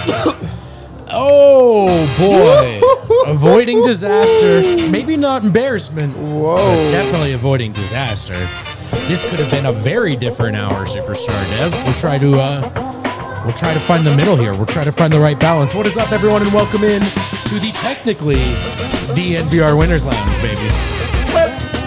Oh, boy. Avoiding disaster. Maybe not embarrassment, but definitely avoiding disaster. This could have been a very different hour, Superstar Dev. We'll try to find the middle here. We'll try to find the right balance. What is up, everyone, and welcome in to the technically DNVR Winners Lounge, baby. Let's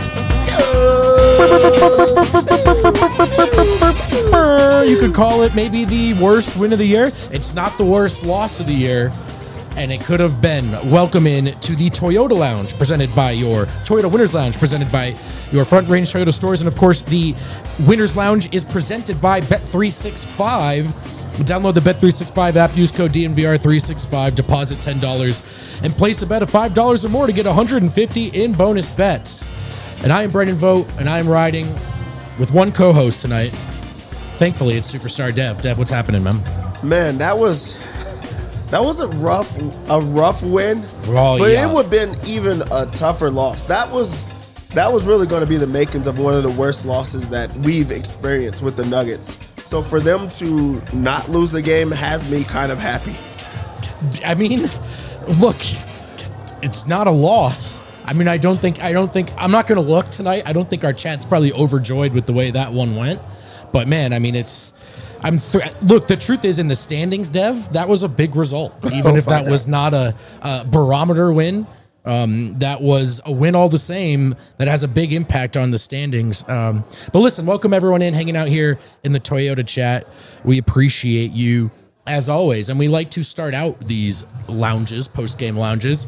go! You could call it maybe the worst win of the year. It's not the worst loss of the year, and it could have been. Welcome in to the Toyota Lounge, presented by your Toyota Winners Lounge, presented by your Front Range Toyota stores, and of course, the Winners Lounge is presented by Bet365. Download the Bet365 app, use code DNVR365, deposit $10, and place a bet of $5 or more to get $150 in bonus bets. And I am Brendan Vogt, and I am riding with one co-host tonight. Thankfully, it's Superstar Dev. Dev, what's happening, man? Man, that was a rough win, but yeah. It would have been even a tougher loss. That was really going to be the makings of one of the worst losses that we've experienced with the Nuggets. So for them to not lose the game has me kind of happy. I mean, look, it's not a loss. I mean, I don't think, I'm not going to look tonight. I don't think our chat's probably overjoyed with the way that one went. But man, I mean, look, the truth is in the standings, Dev, that was a big result. Even if that was not a barometer win. That was a win all the same that has a big impact on the standings. But listen, welcome everyone in, hanging out here in the Toyota chat. We appreciate you as always. And we like to start out these lounges, post-game lounges,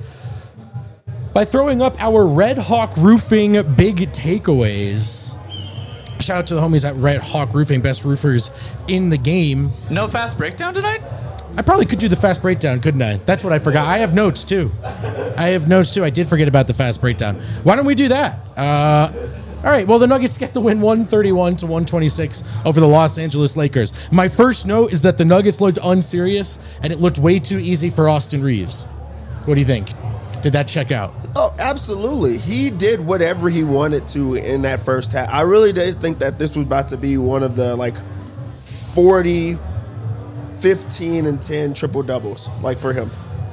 by throwing up our Red Hawk Roofing big takeaways. Shout out to the homies at Red Hawk Roofing, best roofers in the game. No fast breakdown tonight? I probably could do the fast breakdown, couldn't I? That's what I forgot. I have notes, too. I did forget about the fast breakdown. Why don't we do that? All right, well, the Nuggets get the win 131-126 over the Los Angeles Lakers. My first note is that the Nuggets looked unserious, and it looked way too easy for Austin Reeves. What do you think? Did that check out? Oh, absolutely. He did whatever he wanted to in that first half. I really did think that this was about to be one of the, 40, 15, and 10 triple-doubles, for him.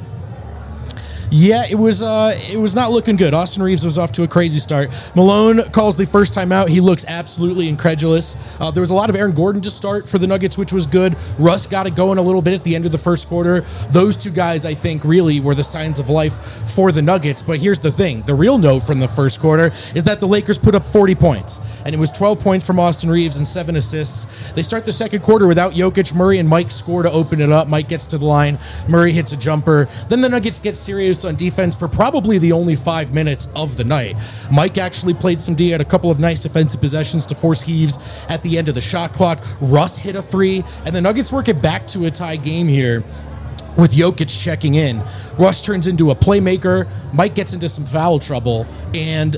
Yeah, it was not looking good. Austin Reeves was off to a crazy start. Malone calls the first time out. He looks absolutely incredulous. There was a lot of Aaron Gordon to start for the Nuggets, which was good. Russ got it going a little bit at the end of the first quarter. Those two guys, I think, really were the signs of life for the Nuggets. But here's the thing. The real note from the first quarter is that the Lakers put up 40 points. And it was 12 points from Austin Reeves and 7 assists. They start the second quarter without Jokic. Murray and Mike score to open it up. Mike gets to the line. Murray hits a jumper. Then the Nuggets get serious on defense for probably the only 5 minutes of the night. Mike actually played some D, had a couple of nice defensive possessions to force heaves at the end of the shot clock. Russ hit a 3, and the Nuggets work it back to a tie game here with Jokic checking in. Russ turns into a playmaker. Mike gets into some foul trouble, and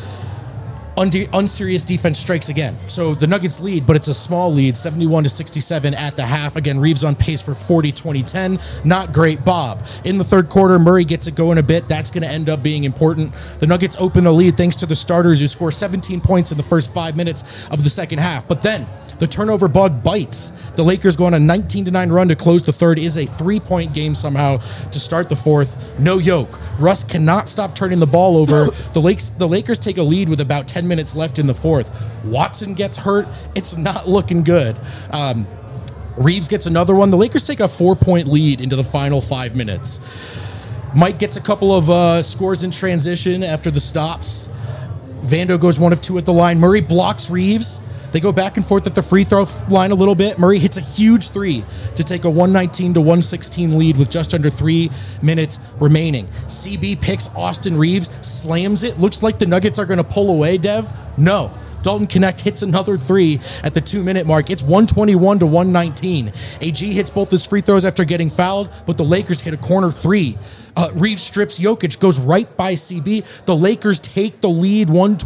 unserious defense strikes again. So the Nuggets lead, but it's a small lead, 71-67 at the half. Again, Reeves on pace for 40-20-10. Not great, Bob. In the third quarter, Murray gets it going a bit. That's going to end up being important. The Nuggets open the lead thanks to the starters who score 17 points in the first 5 minutes of the second half. But then the turnover bug bites. The Lakers go on a 19-9 run to close the third. It is a 3-point game somehow to start the fourth. No yoke. Russ cannot stop turning the ball over. The Lakers take a lead with about 10 minutes left in the fourth. Watson gets hurt. It's not looking good. Reeves gets another one. The Lakers take a 4-point lead into the final 5 minutes. Mike gets a couple of scores in transition after the stops. Vando goes 1 of 2 at the line. Murray blocks Reeves. They go back and forth at the free throw line a little bit. Murray hits a huge 3 to take a 119-116 lead with just under 3 minutes remaining. CB picks Austin Reeves, slams it. Looks like the Nuggets are going to pull away, Dev. No. Dalton Knecht hits another 3 at the 2-minute mark. It's 121-119. AG hits both his free throws after getting fouled, but the Lakers hit a corner 3. Reeves strips Jokic, goes right by CB. The Lakers take the lead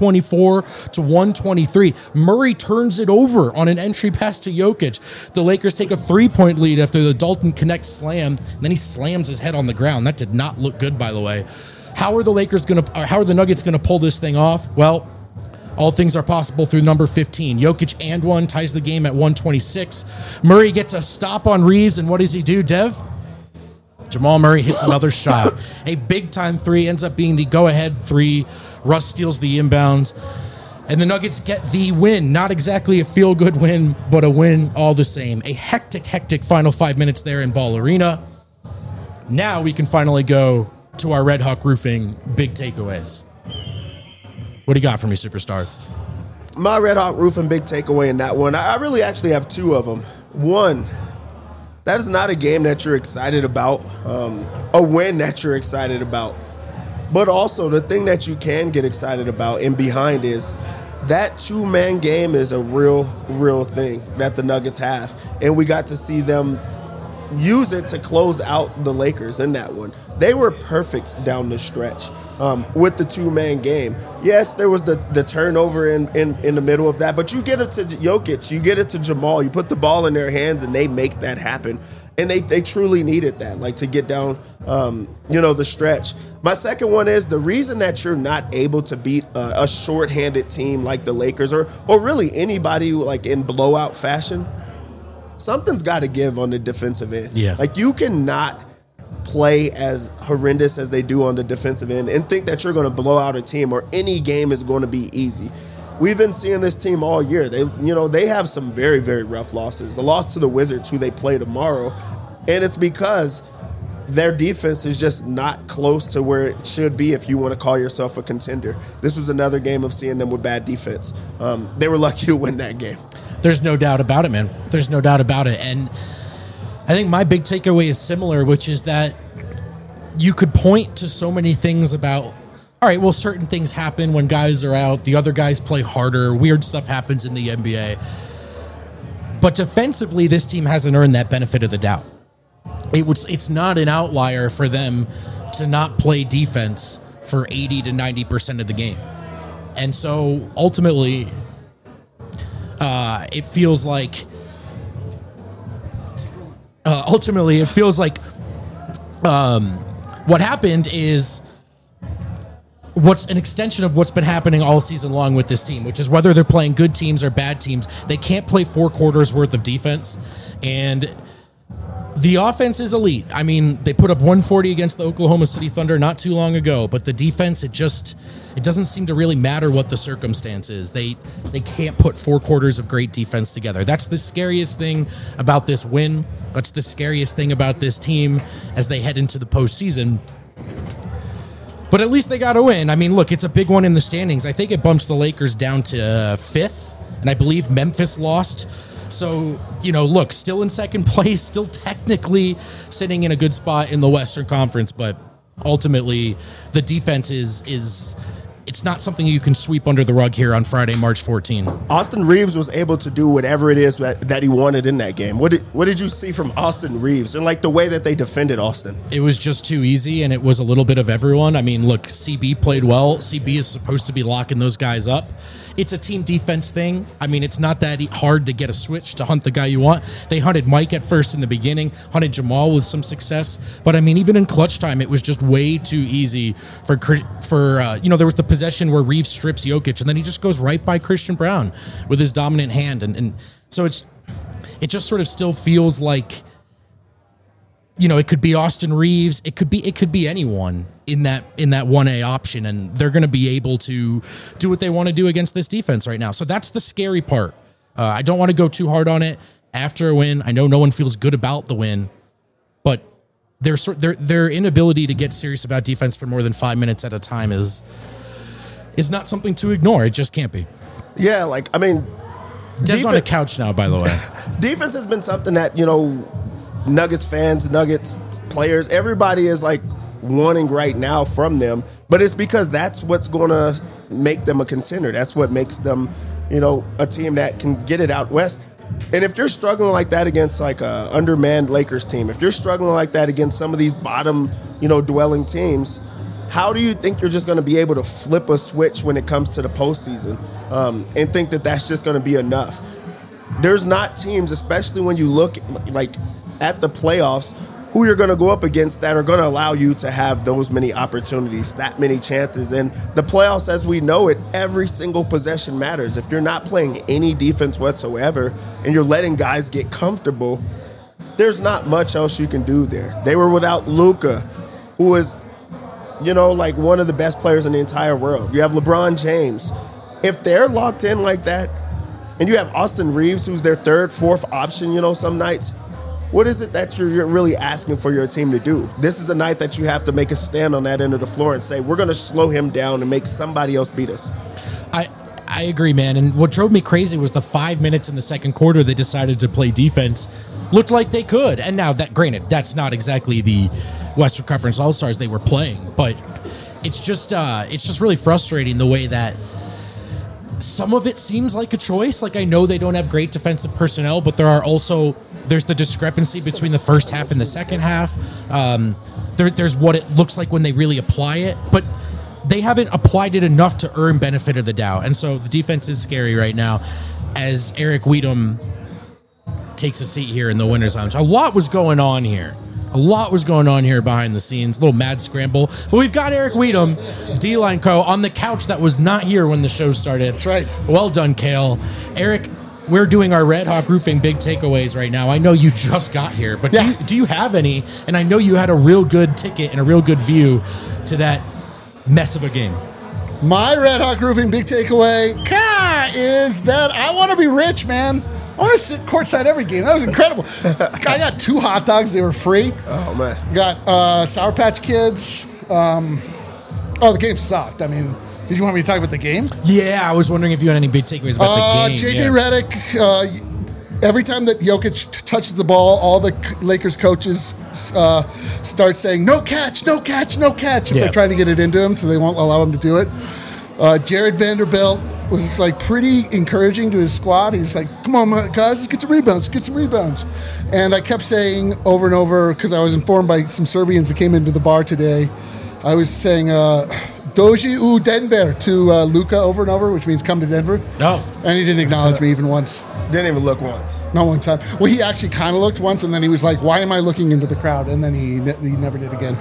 124-123. Murray turns it over on an entry pass to Jokic. The Lakers take a 3-point lead after the Dalton Knecht slam. And then he slams his head on the ground. That did not look good, by the way. How are the Nuggets going to pull this thing off? Well, all things are possible through number 15. Jokic and one ties the game at 126. Murray gets a stop on Reeves, and what does he do, Dev? Jamal Murray hits another shot. A big-time three ends up being the go-ahead three. Russ steals the inbounds. And the Nuggets get the win. Not exactly a feel-good win, but a win all the same. A hectic final 5 minutes there in Ball Arena. Now we can finally go to our Red Hawk Roofing big takeaways. What do you got for me, Superstar? My Red Hawk Roofing big takeaway in that one, I really actually have two of them. One, that is not a game that you're excited about, a win that you're excited about. But also the thing that you can get excited about and behind is that two-man game is a real thing that the Nuggets have. And we got to see them use it to close out the Lakers in that one. They were perfect down the stretch with the two-man game. Yes, there was the turnover in the middle of that, but you get it to Jokic, you get it to Jamal, you put the ball in their hands, and they make that happen. And they truly needed that, like to get down, the stretch. My second one is the reason that you're not able to beat a shorthanded team like the Lakers or really anybody like in blowout fashion. Something's got to give on the defensive end. Yeah. Like you cannot play as horrendous as they do on the defensive end and think that you're going to blow out a team or any game is going to be easy. We've been seeing this team all year. They have some very, very rough losses. A loss to the Wizards, who they play tomorrow, and it's because their defense is just not close to where it should be if you want to call yourself a contender. This was another game of seeing them with bad defense. They were lucky to win that game. There's no doubt about it, man. There's no doubt about it. And I think my big takeaway is similar, which is that you could point to so many things about, all right, well, certain things happen when guys are out. The other guys play harder. Weird stuff happens in the NBA. But defensively, this team hasn't earned that benefit of the doubt. It's not an outlier for them to not play defense for 80 to 90% of the game. And so ultimately, it feels like what happened is what's an extension of what's been happening all season long with this team, which is whether they're playing good teams or bad teams, they can't play 4 quarters worth of defense. And the offense is elite. I mean, they put up 140 against the Oklahoma City Thunder not too long ago, but the defense, it doesn't seem to really matter what the circumstance is. They can't put 4 quarters of great defense together. That's the scariest thing about this win. That's the scariest thing about this team as they head into the postseason. But at least they got a win. I mean, look, it's a big one in the standings. I think it bumps the Lakers down to 5th, and I believe Memphis lost. So, look, still in second place, still technically sitting in a good spot in the Western Conference, but ultimately the defense is it's not something you can sweep under the rug here on Friday, March 14. Austin Reeves was able to do whatever it is that he wanted in that game. What did you see from Austin Reeves and like the way that they defended Austin? It was just too easy, and it was a little bit of everyone. I mean, look, CB played well. CB is supposed to be locking those guys up. It's a team defense thing. I mean, it's not that hard to get a switch to hunt the guy you want. They hunted Mike at first in the beginning, hunted Jamal with some success. But, I mean, even in clutch time, it was just way too easy for there was the possession where Reeves strips Jokic, and then he just goes right by Christian Brown with his dominant hand. And so it just sort of still feels like, it could be Austin Reeves. It could be anyone in that 1A option, and they're going to be able to do what they want to do against this defense right now. So that's the scary part. I don't want to go too hard on it after a win. I know no one feels good about the win, but their inability to get serious about defense for more than 5 minutes at a time is not something to ignore. It just can't be. Yeah, Des on a couch now, by the way. Defense has been something that, Nuggets fans, Nuggets players, everybody is wanting right now from them, but it's because that's what's going to make them a contender. That's what makes them, a team that can get it out west. And if you're struggling like that against a undermanned Lakers team, if you're struggling like that against some of these bottom, dwelling teams, how do you think you're just going to be able to flip a switch when it comes to the postseason and think that that's just going to be enough? There's not teams, especially when you look at the playoffs, who you're going to go up against that are going to allow you to have those many opportunities, that many chances. And the playoffs, as we know it, every single possession matters. If you're not playing any defense whatsoever and you're letting guys get comfortable, there's not much else you can do there. They were without Luka, who is, like one of the best players in the entire world. You have LeBron James. If they're locked in like that, and you have Austin Reeves, who's their third, fourth option, some nights, what is it that you're really asking for your team to do? This is a night that you have to make a stand on that end of the floor and say, we're going to slow him down and make somebody else beat us. I agree, man. And what drove me crazy was the 5 minutes in the second quarter they decided to play defense. Looked like they could. And now, granted, that's not exactly the Western Conference All-Stars they were playing, but it's just really frustrating the way that some of it seems like a choice. Like, I know they don't have great defensive personnel, but there's the discrepancy between the first half and the second half. There's what it looks like when they really apply it, but they haven't applied it enough to earn benefit of the doubt. And so the defense is scary right now as Eric Weedham takes a seat here in the winner's lounge. A lot was going on here behind the scenes. A little mad scramble. But we've got Eric Weedham, D-Line Co., on the couch that was not here when the show started. That's right. Well done, Kale. Eric, we're doing our Red Hawk Roofing big takeaways right now. I know you just got here, but do you have any? And I know you had a real good ticket and a real good view to that mess of a game. My Red Hawk Roofing big takeaway is that I want to be rich, man. I want to sit courtside every game. That was incredible. I got 2 hot dogs. They were free. Oh, man. Got Sour Patch Kids. The game sucked. I mean, did you want me to talk about the game? Yeah, I was wondering if you had any big takeaways about the game. JJ Redick, every time that Jokic touches the ball, all the Lakers coaches start saying, no catch, no catch, no catch. If they're trying to get it into him, so they won't allow him to do it. Jared Vanderbilt was pretty encouraging to his squad. He was like, come on, guys, let's get some rebounds. And I kept saying over and over, because I was informed by some Serbians that came into the bar today, I was saying, Doji u Denver to Luka over and over, which means come to Denver. No. And he didn't acknowledge me even once. Didn't even look once. Not one time. Well, he actually kind of looked once, and then he was like, why am I looking into the crowd? And then he never did again.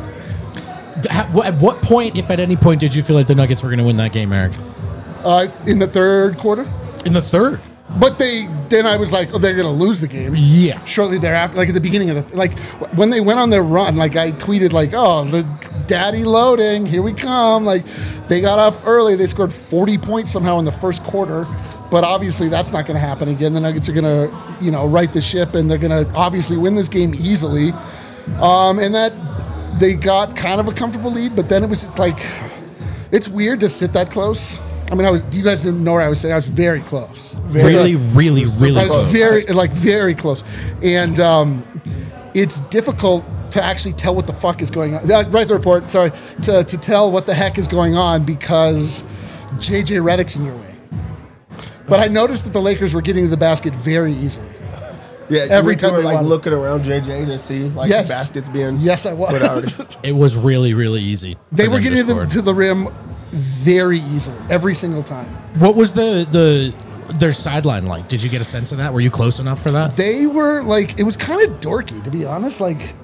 At what point, if at any point, did you feel like the Nuggets were going to win that game, Eric? In the third quarter. In the third? But then I was like, they're going to lose the game. Yeah. Shortly thereafter, like at the beginning of when they went on their run, I tweeted the daddy loading, here we come. They got off early. They scored 40 points somehow in the first quarter. But obviously that's not going to happen again. The Nuggets are going to, right the ship, and they're going to obviously win this game easily. And that they got kind of a comfortable lead, but then it was it's weird to sit that close. I mean, you guys didn't know where I was sitting. I was very close. Really close. Very close. And it's difficult to actually tell what the fuck is going on. Write the report, sorry. To tell what the heck is going on because JJ Redick's in your way. But I noticed that the Lakers were getting to the basket very easily. Yeah, every time you they were looking around JJ to see the baskets being I was. put out. It was really, really easy. They were getting to the rim very easily every single time. What was their sideline like? Did you get a sense of that? Were you close enough for that? They were it was kind of dorky, to be honest.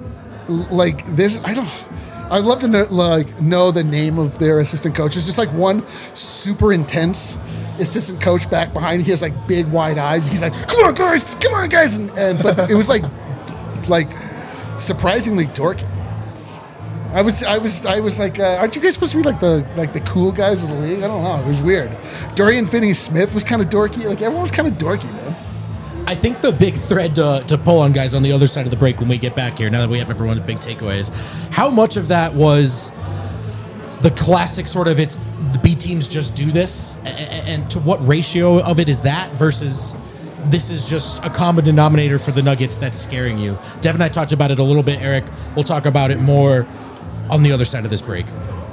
I'd love to know the name of their assistant coach. It's just one super intense assistant coach back behind. He has big wide eyes. He's like, come on guys, and but it was surprisingly dorky. I was like, aren't you guys supposed to be the cool guys of the league? I don't know. It was weird. Dorian Finney-Smith was kind of dorky. Everyone was kind of dorky, man. I think the big thread to pull on, guys, on the other side of the break when we get back here, now that we have everyone's big takeaways, how much of that was the classic sort of the B teams just do this, and to what ratio of it is that versus this is just a common denominator for the Nuggets that's scaring you? Dev and I talked about it a little bit, Eric. We'll talk about it more on the other side of this break.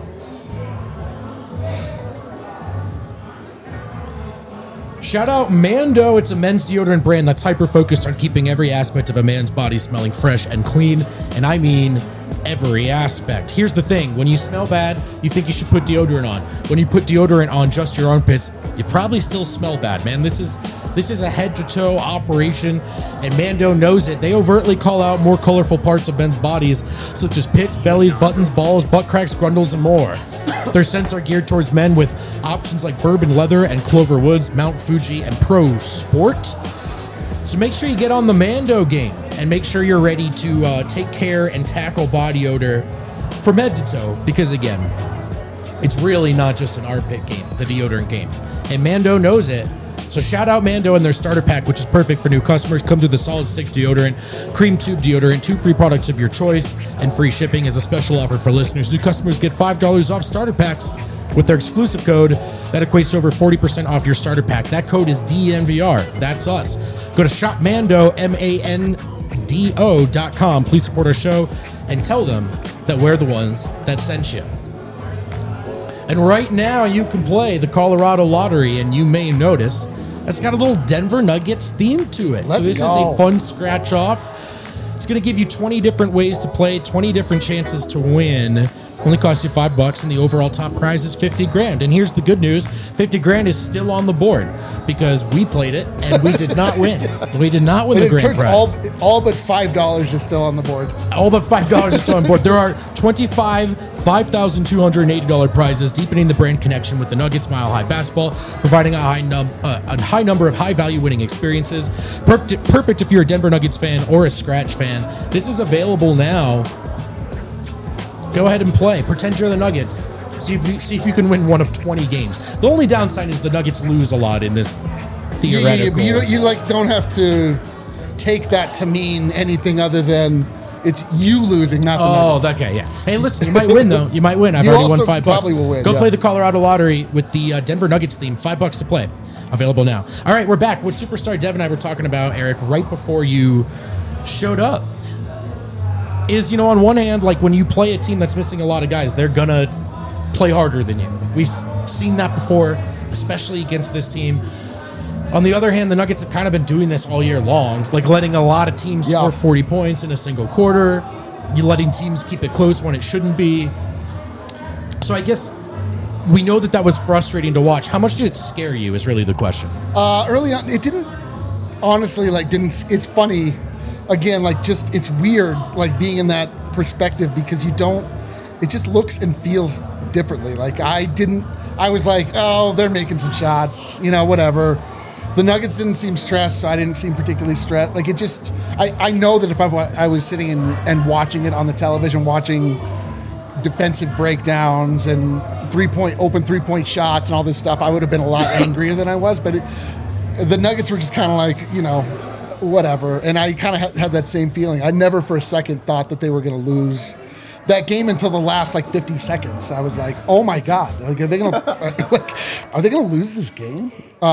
Shout out Mando. It's a men's deodorant brand that's hyper-focused on keeping every aspect of a man's body smelling fresh and clean, and I mean every aspect. Here's the thing. When you smell bad, you think you should put deodorant on. When you put deodorant on just your armpits, you probably still smell bad, man. This is a head-to-toe operation, and Mando knows it. They overtly call out more colorful parts of men's bodies, such as pits, bellies, buttons, balls, butt cracks, grundles, and more. Their scents are geared towards men with options like bourbon leather and Clover Woods, Mount Fuji, and Pro Sport. So make sure you get on the Mando game and make sure you're ready to take care and tackle body odor from head to toe, because again, it's really not just an armpit game, the deodorant game. And Mando knows it. So shout out Mando and their starter pack, which is perfect for new customers. Come to the Solid Stick deodorant, cream tube deodorant, 2 free products of your choice, and free shipping as a special offer for listeners. New customers get $5 off starter packs with their exclusive code. That equates to over 40% off your starter pack. That code is DNVR. That's us. Go to shopmando, MANDO.com. Please support our show and tell them that we're the ones that sent you. And right now you can play the Colorado Lottery, and you may notice it's got a little Denver Nuggets theme to it. So this is a fun scratch off. It's going to give you 20 different ways to play, 20 different chances to win. Only costs you $5, and the overall top prize is $50,000. And here's the good news: $50,000 is still on the board because we played it and we did not win. We did not win the grand prize. All but $5 is still on the board. All but $5 is still on board. There are 25 $5,280 prizes, deepening the brand connection with the Nuggets Mile High Basketball, providing a high number of high-value winning experiences. Perfect if you're a Denver Nuggets fan or a Scratch fan. This is available now. Go ahead and play. Pretend you're the Nuggets. See if you can win one of 20 games. The only downside is the Nuggets lose a lot in this theoretical. Yeah, you don't have to take that to mean anything other than it's you losing, not the Nuggets. Okay, yeah. Hey, listen, you might win though. You might win. I've already won $5. Probably will win. Go play the Colorado Lottery with the Denver Nuggets theme. $5 to play. Available now. All right, we're back. What Superstar Dev and I were talking about, Eric, right before you showed up, is, on one hand, like when you play a team that's missing a lot of guys, they're gonna play harder than you. We've seen that before, especially against this team. On the other hand, the Nuggets have kind of been doing this all year long, like letting a lot of teams score 40 points in a single quarter. You're letting teams keep it close when it shouldn't be. So I guess we know that was frustrating to watch. How much did it scare you is really the question. Early on, it didn't, honestly, it's funny. Again, it's weird, being in that perspective, because it just looks and feels differently. I was like, oh, they're making some shots, whatever. The Nuggets didn't seem stressed, so I didn't seem particularly stressed. I know that if I was sitting and watching it on the television, watching defensive breakdowns and open three-point shots and all this stuff, I would have been a lot angrier than I was. But the Nuggets were just kind of whatever. And I kind of had that same feeling. I never for a second thought that they were going to lose that game until the last 50 seconds. I was like, oh my God, are they going to lose this game?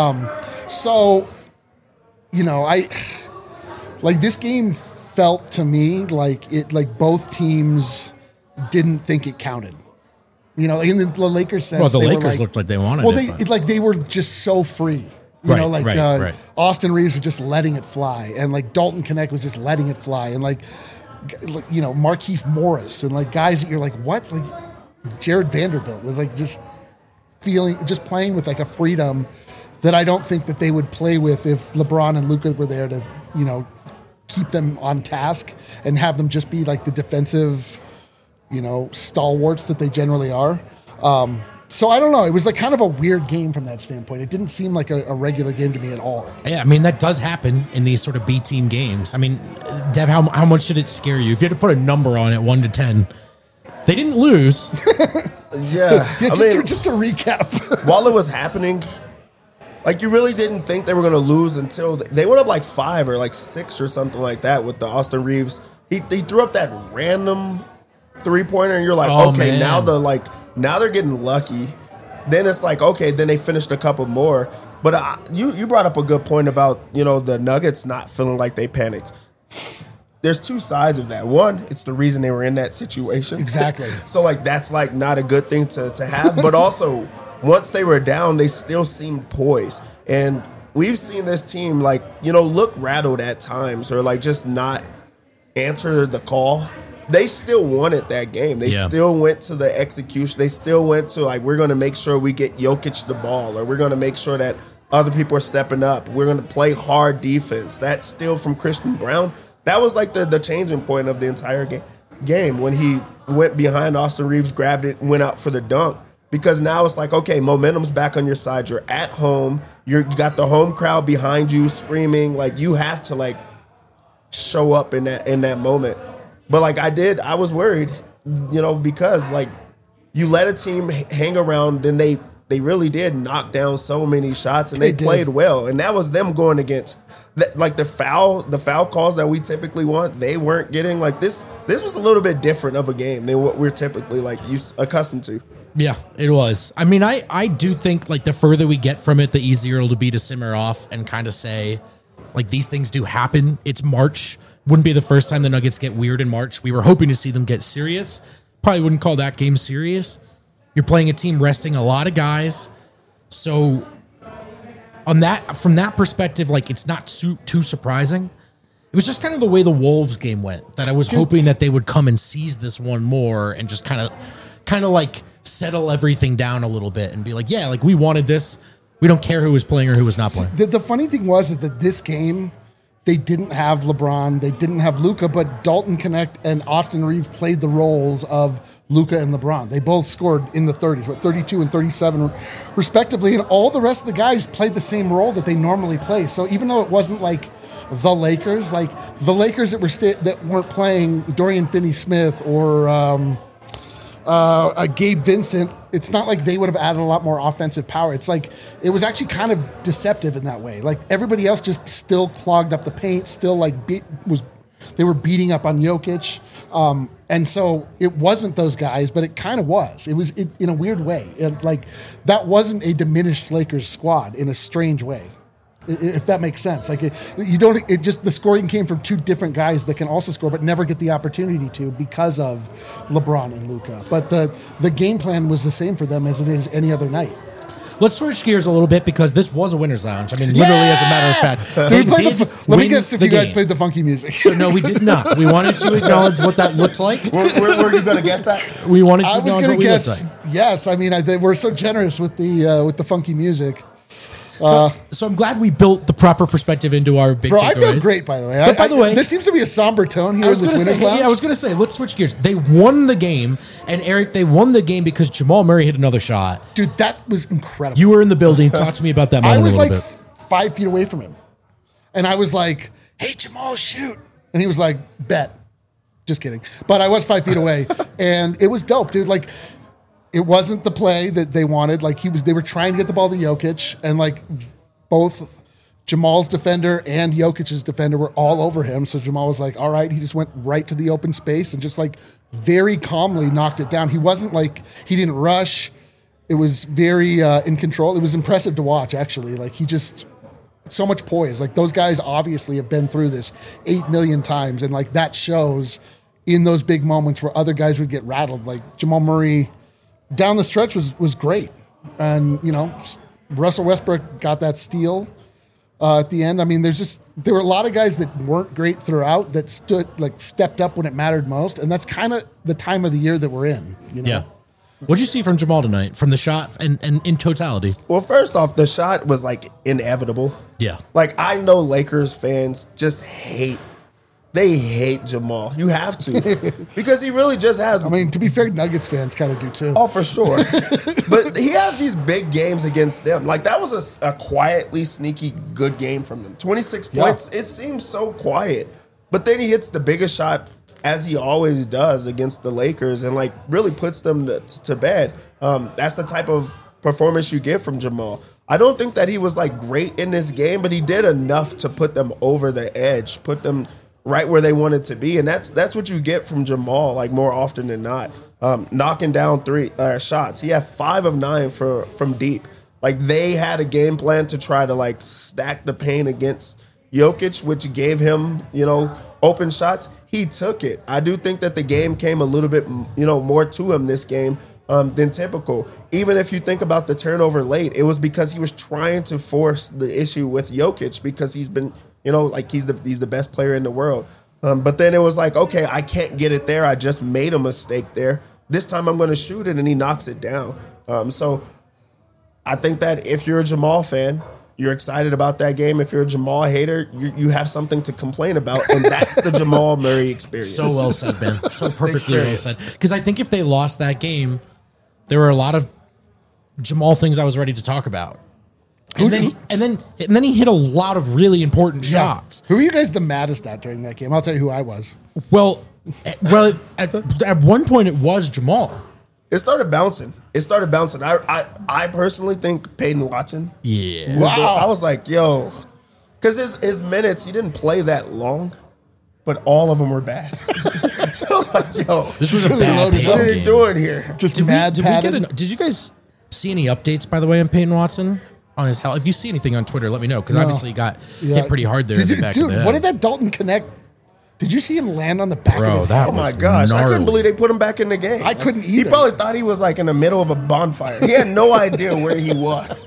This game felt to me like both teams didn't think it counted. In the Lakers sense. Well, the Lakers looked like they wanted it. They were just so free. Right. Austin Reeves was just letting it fly, and Dalton Knecht was just letting it fly, and Markieff Morris and guys that you're like, what? Jared Vanderbilt was just playing with a freedom that I don't think that they would play with if LeBron and Luka were there to, keep them on task and have them just be the defensive, stalwarts that they generally are. So I don't know. It was kind of a weird game from that standpoint. It didn't seem like a regular game to me at all. Yeah, I mean, that does happen in these sort of B team games. I mean, Dev, how much did it scare you? If you had to put a number on it, 1 to 10, they didn't lose. Yeah. Just to recap. While it was happening, you really didn't think they were going to lose until they went up 5 or 6 or something like that with the Austin Reeves. He threw up that random three-pointer, and you're like, okay, man. Now they're getting lucky. Then it's okay, then they finished a couple more. But you brought up a good point about, the Nuggets not feeling like they panicked. There's two sides of that. One, it's the reason they were in that situation. Exactly. So, that's, not a good thing to have. But also, once they were down, they still seemed poised. And we've seen this team, look rattled at times or, just not answer the call. They still wanted that game. They still went to the execution. They still went to, we're going to make sure we get Jokic the ball, or we're going to make sure that other people are stepping up. We're going to play hard defense. That's still from Christian Brown. That was the changing point of the entire game when he went behind Austin Reeves, grabbed it, and went out for the dunk. because now it's like, okay, momentum's back on your side. You're at home. You got the home crowd behind you screaming. Like, you have to like show up in that moment. But like I was worried, because like you let a team hang around, then they really did knock down so many shots, and they played well. And that was them going against the foul calls that we typically want. They weren't getting like this. This was a little bit different of a game than what we're typically like accustomed to. Yeah, it was. I mean, I do think like the further we get from it, the easier it'll be to simmer off and kind of say, like, these things do happen. It's March. Wouldn't be the first time the Nuggets get weird in March. We were hoping to see them get serious. Probably wouldn't call that game serious. You're playing a team resting a lot of guys. So from that perspective, like, it's not too surprising. It was just kind of the way the Wolves game went that I was hoping that they would come and seize this one more and just kind of like settle everything down a little bit and be like, yeah, like, we wanted this. We don't care who was playing or who was not playing. The funny thing was that this game, they didn't have LeBron, they didn't have Luka, but Dalton Knecht and Austin Reeves played the roles of Luka and LeBron. They both scored in the 30s, 32 and 37 respectively, and all the rest of the guys played the same role that they normally play. So even though it wasn't like the Lakers that weren't playing Dorian Finney-Smith or Gabe Vincent, it's not like they would have added a lot more offensive power. It's like it was actually kind of deceptive in that way. Like, everybody else just still clogged up the paint, still like they were beating up on Jokic, and so it wasn't those guys, but it kind of was. It was in a weird way. Like, that wasn't a diminished Lakers squad in a strange way, if that makes sense. Like, the scoring came from two different guys that can also score but never get the opportunity to because of LeBron and Luka. But the game plan was the same for them as it is any other night. Let's switch gears a little bit because this was a winner's lounge. I mean, literally, as a matter of fact, they did let me guess if you guys played the funky music. So no, we did not. We wanted to acknowledge what that looked like. Were you going to guess that? We wanted to acknowledge what we looked like. Yes, I mean, we're so generous with the funky music. So I'm glad we built the proper perspective into our big takeaways. I feel great, by the way. But by the way, there seems to be a somber tone here. I was going to say, let's switch gears. They won the game, and Eric, they won the game because Jamal Murray hit another shot. Dude, that was incredible. You were in the building. Talk to me about that moment. I was a little like bit. 5 feet away from him, and I was like, "Hey, Jamal, shoot!" And he was like, "Bet." Just kidding. But I was 5 feet away, and it was dope, dude. Like, it wasn't the play that they wanted. Like, they were trying to get the ball to Jokic, and like, both Jamal's defender and Jokic's defender were all over him. So Jamal was like, all right. He just went right to the open space and just like very calmly knocked it down. He wasn't like, he didn't rush. It was very in control. It was impressive to watch, actually. Like, he just, so much poise. Like, those guys obviously have been through this 8 million times. And like, that shows in those big moments where other guys would get rattled. Like, Jamal Murray down the stretch was great. And, Russell Westbrook got that steal at the end. I mean, there were a lot of guys that weren't great throughout that stepped up when it mattered most, and that's kind of the time of the year that we're in. Yeah. What did you see from Jamal tonight, from the shot and in totality? Well, first off, the shot was like inevitable. Yeah. Like, I know Lakers fans just hate Jamal. You have to. Because he really just has... I mean, to be fair, Nuggets fans kind of do too. Oh, for sure. But he has these big games against them. Like, that was a quietly sneaky good game from him. 26 points. It seems so quiet. But then he hits the biggest shot, as he always does, against the Lakers and, like, really puts them to bed. That's the type of performance you get from Jamal. I don't think that he was, like, great in this game, but he did enough to put them over the edge, put them right where they wanted to be, and that's what you get from Jamal, like, more often than not. Knocking down 3 shots. He had 5 of 9 from deep. Like, they had a game plan to try to like stack the paint against Jokic, which gave him open shots. He took it. I do think that the game came a little bit more to him this game than typical. Even if you think about the turnover late, it was because he was trying to force the issue with Jokic because he's been, he's the best player in the world. But then it was like, okay, I can't get it there. I just made a mistake there. This time I'm going to shoot it, and he knocks it down. So I think that if you're a Jamal fan, you're excited about that game. If you're a Jamal hater, you have something to complain about, and that's the Jamal Murray experience. So well said, Ben. So perfectly well said. Because I think if they lost that game, there were a lot of Jamal things I was ready to talk about. And then he hit a lot of really important shots. Who were you guys the maddest at during that game? I'll tell you who I was. Well, at one point it was Jamal. It started bouncing. I personally think Peyton Watson. Yeah. Wow. I was like, yo, because his minutes, he didn't play that long, but all of them were bad. So I was like, yo, This was a really bad loaded. Peyton what are they game. doing here? Just Did mad we padded. did you guys see any updates, by the way, on Peyton Watson? On his health? If you see anything on Twitter, let me know, because obviously he got hit pretty hard there in the back of the head. What did that Dalton Connect? Did you see him land on the back Bro, of his that head? Oh my was gosh, I gnarly. couldn't believe they put him back in the game. I couldn't He either. probably thought he was like in the middle of a bonfire. He had no idea where he was.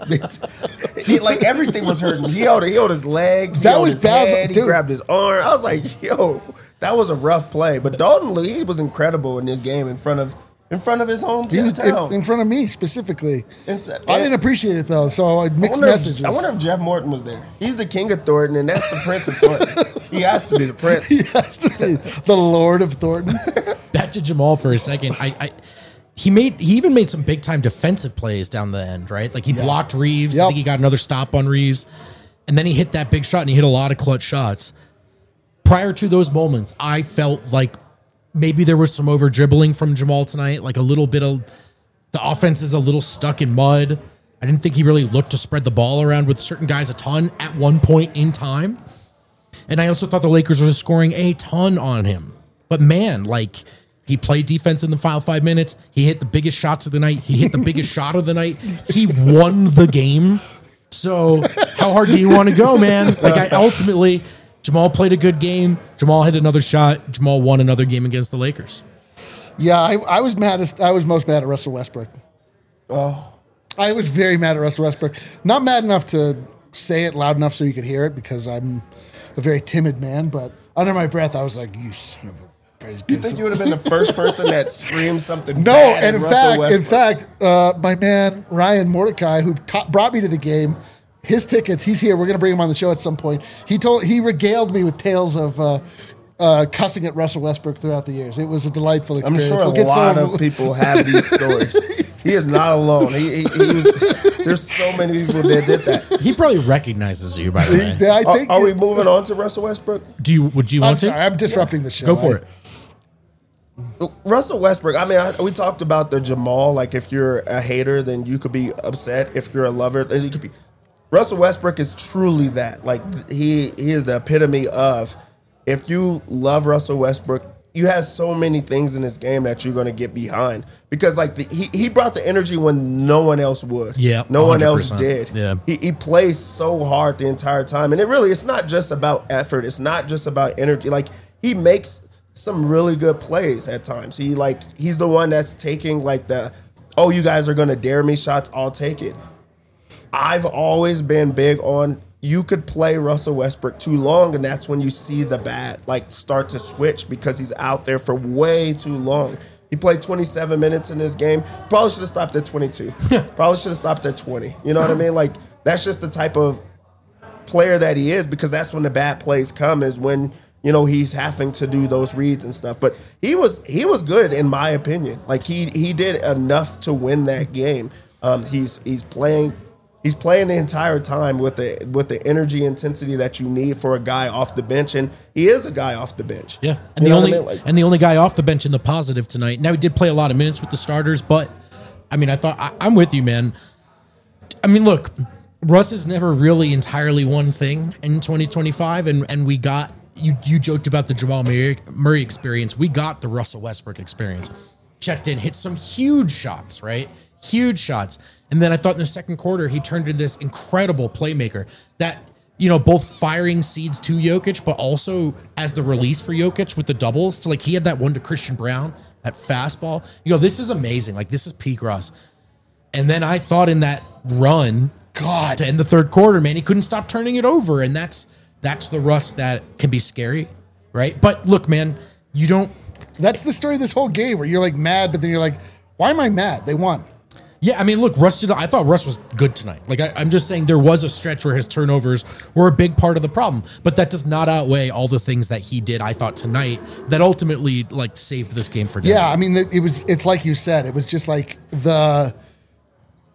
Like everything was hurting. He held his leg. He That held was his bad, head, he dude. grabbed his arm. I was like, yo, that was a rough play. But Dalton Lee was incredible in this game in front of his He hometown. was in front of me specifically. And- I didn't appreciate it though, so I mixed messages. I wonder if Jeff Morton was there. He's the king of Thornton, and that's the prince of Thornton. He has to be the prince. He has to be the Lord of Thornton. Back to Jamal for a second. He even made some big time defensive plays down the end, right? Like he blocked Reeves. I Yep. think he got another stop on Reeves. And then he hit that big shot, and he hit a lot of clutch shots. Prior to those moments, I felt like maybe there was some over dribbling from Jamal tonight, like a little bit of the offense is a little stuck in mud. I didn't think he really looked to spread the ball around with certain guys a ton at one point in time. And I also thought the Lakers were scoring a ton on him. But man, like he played defense in the final 5 minutes. He hit the biggest shots of the night. He hit the biggest shot of the night. He won the game. So how hard do you want to go, man? Like ultimately, Jamal played a good game. Jamal hit another shot. Jamal won another game against the Lakers. Yeah, I was maddest. I was most mad at Russell Westbrook. Oh, I was very mad at Russell Westbrook. Not mad enough to say it loud enough so you could hear it because I'm a very timid man. But under my breath, I was like, "You son of a." you think you would have been the first person that screamed something? No, bad and at Russell in Westbrook? fact, my man Ryan Mordecai, who brought me to the game, his tickets. He's here. We're gonna bring him on the show at some point. He regaled me with tales of cussing at Russell Westbrook throughout the years. It was a delightful I'm experience. sure a lot of people have these stories. He is not alone. He was. There's so many people that did that. He probably recognizes you, by the way. I think. Are we moving on to Russell Westbrook? Would you I'm want to? sorry. I'm disrupting the show. Go for it. Russell Westbrook. I mean, we talked about the Jamal. Like, if you're a hater, then you could be upset. If you're a lover, then you could be. Russell Westbrook is truly that. Like, he is the epitome of. If you love Russell Westbrook, you have so many things in this game that you're going to get behind because, like, he brought the energy when no one else would. Yeah, no one else 100%. did. Yeah, he plays so hard the entire time, and it's not just about effort. It's not just about energy. Like, he makes some really good plays at times. He's the one that's taking like you guys are going to dare me shots. I'll take it. I've always been big on. You could play Russell Westbrook too long, and that's when you see the bat start to switch because he's out there for way too long. He played 27 minutes in this game. Probably should have stopped at 22. Probably should have stopped at 20. You know what I mean? Like, that's just the type of player that he is because that's when the bad plays come is when, he's having to do those reads and stuff. But he was good in my opinion. Like, he did enough to win that game. He's playing the entire time with the energy intensity that you need for a guy off the bench, and he is a guy off the bench. Yeah, and the only guy off the bench in the positive tonight. Now he did play a lot of minutes with the starters, but I mean, I'm with you, man. I mean, look, Russ has never really entirely one thing in 2025, and we got you joked about the Jamal Murray experience. We got the Russell Westbrook experience. Checked in, hit some huge shots, right? Huge shots. And then I thought in the second quarter, he turned into this incredible playmaker that, both firing seeds to Jokic, but also as the release for Jokic with the doubles. So, he had that one to Christian Brown, that fastball. This is amazing. Like, this is peak Russ. And then I thought in that run, to end the third quarter, man, he couldn't stop turning it over. And that's the Russ that can be scary, right? But look, man, you don't. That's the story of this whole game where you're mad, but then you're like, why am I mad? They won. Yeah, I mean, look, I thought Russ was good tonight. I'm just saying there was a stretch where his turnovers were a big part of the problem, but that does not outweigh all the things that he did, I thought, tonight that ultimately, saved this game for Denver. Yeah, I mean, it's like you said. It was just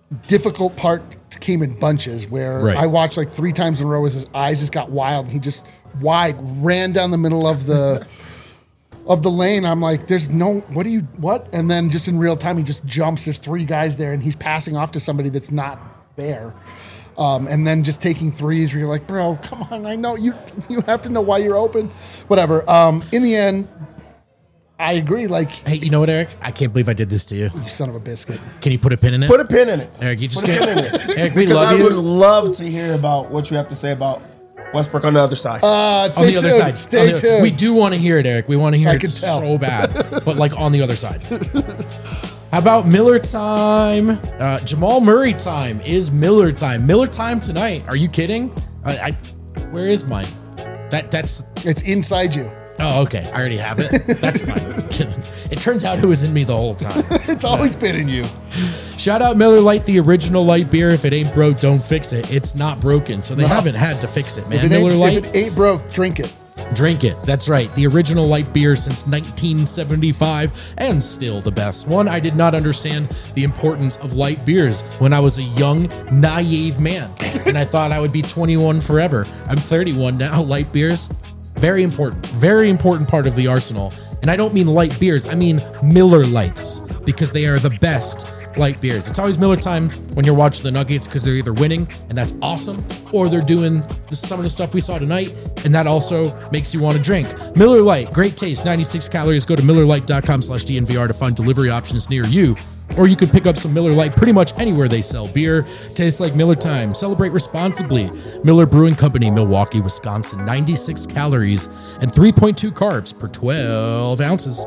difficult part came in bunches where Right. I watched like 3 times in a row as his eyes just got wild and he just ran down the middle of the lane. I'm like, there's no, what? And then just in real time, he just jumps. There's 3 guys there and he's passing off to somebody that's not there. And then just taking threes where you're like, bro, come on. I know you have to know why you're open, whatever. In the end, I agree. Like, Hey, you know what, Eric? I can't believe I did this to you. you son of a biscuit. Can you put a pin in it? Put a pin in it. Eric, you just Put a can't. pin in it. Eric, we Because love I would you. love to hear about what you have to say about Westbrook on the other side. Stay On the other tuned. side. Stay On the- tuned. We do want to hear it, Eric. We want to hear I it can tell. so bad. But like on the other side. How about Miller time? Jamal Murray time is Miller time. Miller time tonight. Are you kidding? Where is mine? That's. It's inside you. Oh, okay. I already have it. That's fine. It turns out it was in me the whole time. It's always been in you. Shout out Miller Lite, the original light beer. If it ain't broke, don't fix it. It's not broken, so they haven't had to fix it, man. If Miller Lite, it ain't broke, drink it. drink it. That's right. The original light beer since 1975 and still the best one. I did not understand the importance of light beers when I was a young, naive man, and I thought I would be 21 forever. I'm 31 now. Light beers, very important part of the arsenal. And I don't mean light beers, I mean Miller Lights, because they are the best light beers. It's always Miller time when you're watching the Nuggets because they're either winning, and that's awesome, or they're doing some of the stuff we saw tonight, and that also makes you want to drink. Miller Lite, great taste, 96 calories. Go to MillerLite.com/DNVR to find delivery options near you. Or you could pick up some Miller Lite pretty much anywhere they sell beer. Tastes like Miller time. Celebrate responsibly. Miller Brewing Company, Milwaukee, Wisconsin. 96 calories and 3.2 carbs per 12 ounces.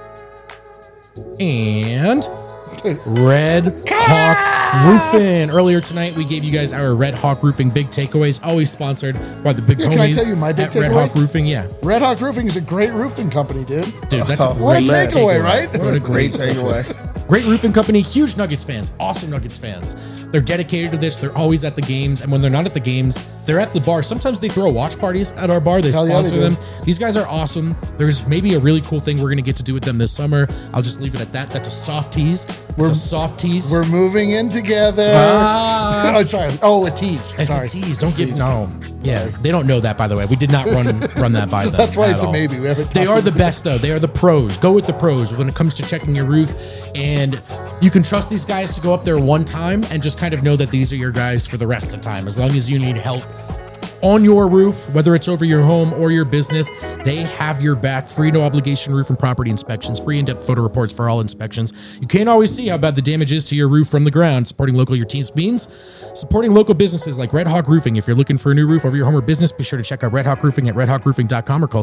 And Red Hawk Roofing. Earlier tonight, we gave you guys our Red Hawk Roofing big takeaways, always sponsored by the big homies can I tell you my big at Red takeaway? Hawk Roofing. Yeah, Red Hawk Roofing is a great roofing company, dude. dude, that's a What a great takeaway, right? What a great Great takeaway. takeaway. Great roofing company, huge Nuggets fans, awesome Nuggets fans. They're dedicated to this. They're always at the games. And when they're not at the games, they're at the bar. Sometimes they throw watch parties at our bar. They Hell yeah, sponsor they do. them. These guys are awesome. There's maybe a really cool thing we're going to get to do with them this summer. I'll just leave it at that. That's a soft tease. It's a soft tease. We're moving in together. Ah. Oh, sorry. Oh, a tease. It's Sorry. a tease. Don't give no. Yeah, they don't know that, by the way. We did not run that by them. That's why at it's a all. maybe. We haven't They talked are the best, though. They are the pros. Go with the pros when it comes to checking your roof, and you can trust these guys to go up there one time and just kind of know that these are your guys for the rest of the time. As long as you need help on your roof, whether it's over your home or your business, they have your back. Free, no obligation roof and property inspections, free in-depth photo reports for all inspections. You can't always see how bad the damage is to your roof from the ground. Supporting local, your team's means supporting local businesses like Red Hawk Roofing. If you're looking for a new roof over your home or business, be sure to check out Red Hawk Roofing at redhawkroofing.com or call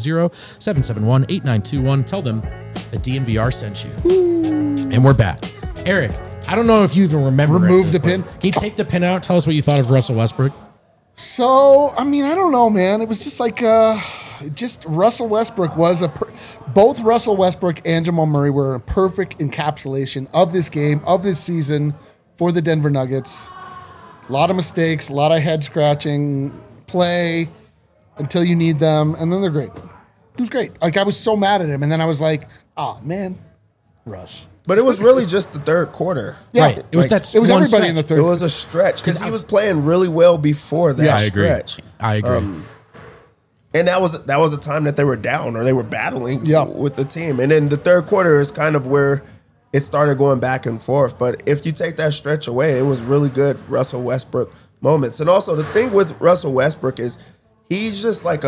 720-771-8921. Tell them that DNVR sent you. And we're back. Eric, I don't know if you even remember. Remove at this the pin? point. Can you take the pin out? Tell us what you thought of Russell Westbrook. So, I mean, I don't know, man. It was just like, just Russell Westbrook was both Russell Westbrook and Jamal Murray were a perfect encapsulation of this game, of this season for the Denver Nuggets. A lot of mistakes, a lot of head scratching, play until you need them, and then they're great. It was great. Like, I was so mad at him, and then I was like, oh, man, Russ. But it was really just the third quarter. Yeah. Right. It was Like, that It was one everybody in the stretch. third. It was a stretch because he I was was- playing really well before that Yeah, stretch. I agree. And that was a time that they were down or they were battling Yeah. with the team. And then the third quarter is kind of where it started going back and forth. But if you take that stretch away, it was really good Russell Westbrook moments. And also the thing with Russell Westbrook is he's just like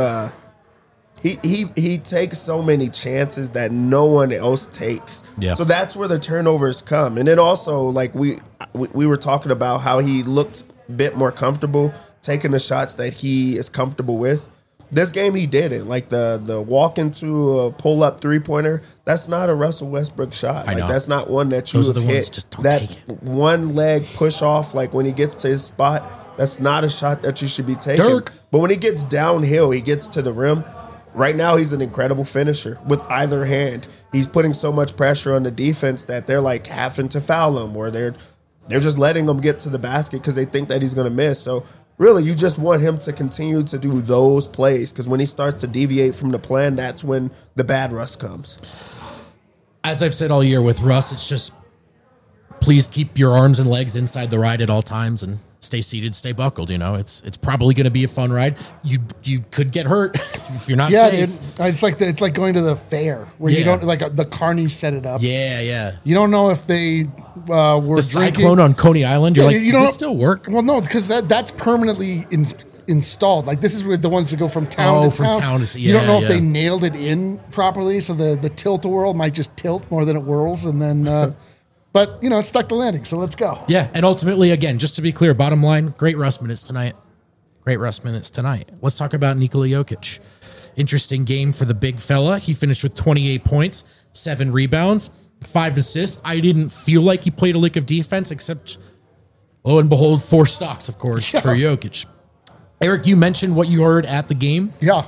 he takes so many chances that no one else takes. Yeah. So that's where the turnovers come. And then also like we were talking about how he looked a bit more comfortable taking the shots that he is comfortable with. This game he didn't. Like the walk into a pull up 3-pointer, that's not a Russell Westbrook shot. I Like know. that's not one that you Those are have the hit. ones, just don't that take it. one leg push off, like when he gets to his spot, that's not a shot that you should be taking. Dirk. But when he gets downhill, he gets to the rim. Right now, he's an incredible finisher with either hand. He's putting so much pressure on the defense that they're like having to foul him, or they're just letting him get to the basket because they think that he's going to miss. So really, you just want him to continue to do those plays because when he starts to deviate from the plan, that's when the bad Russ comes. As I've said all year with Russ, it's just please keep your arms and legs inside the ride at all times and stay seated, stay buckled. You know, it's probably going to be a fun ride. You could get hurt if you're not safe. Dude. It's like going to the fair where you don't the carnies set it up. Yeah. You don't know if they were the drinking. Cyclone on Coney Island. You're does this still work? Well, no, because that's permanently installed. Like, this is with the ones that go from town to town. You don't know if they nailed it in properly, so the tilt-a-whirl might just tilt more than it whirls, and then. But, you know, it stuck the landing, so let's go. Yeah, and ultimately, again, just to be clear, bottom line, great rust minutes tonight. Let's talk about Nikola Jokic. Interesting game for the big fella. He finished with 28 points, 7 rebounds, 5 assists. I didn't feel like he played a lick of defense, except, lo and behold, 4 stocks, of course, for Jokic. Eric, you mentioned what you heard at the game. Yeah.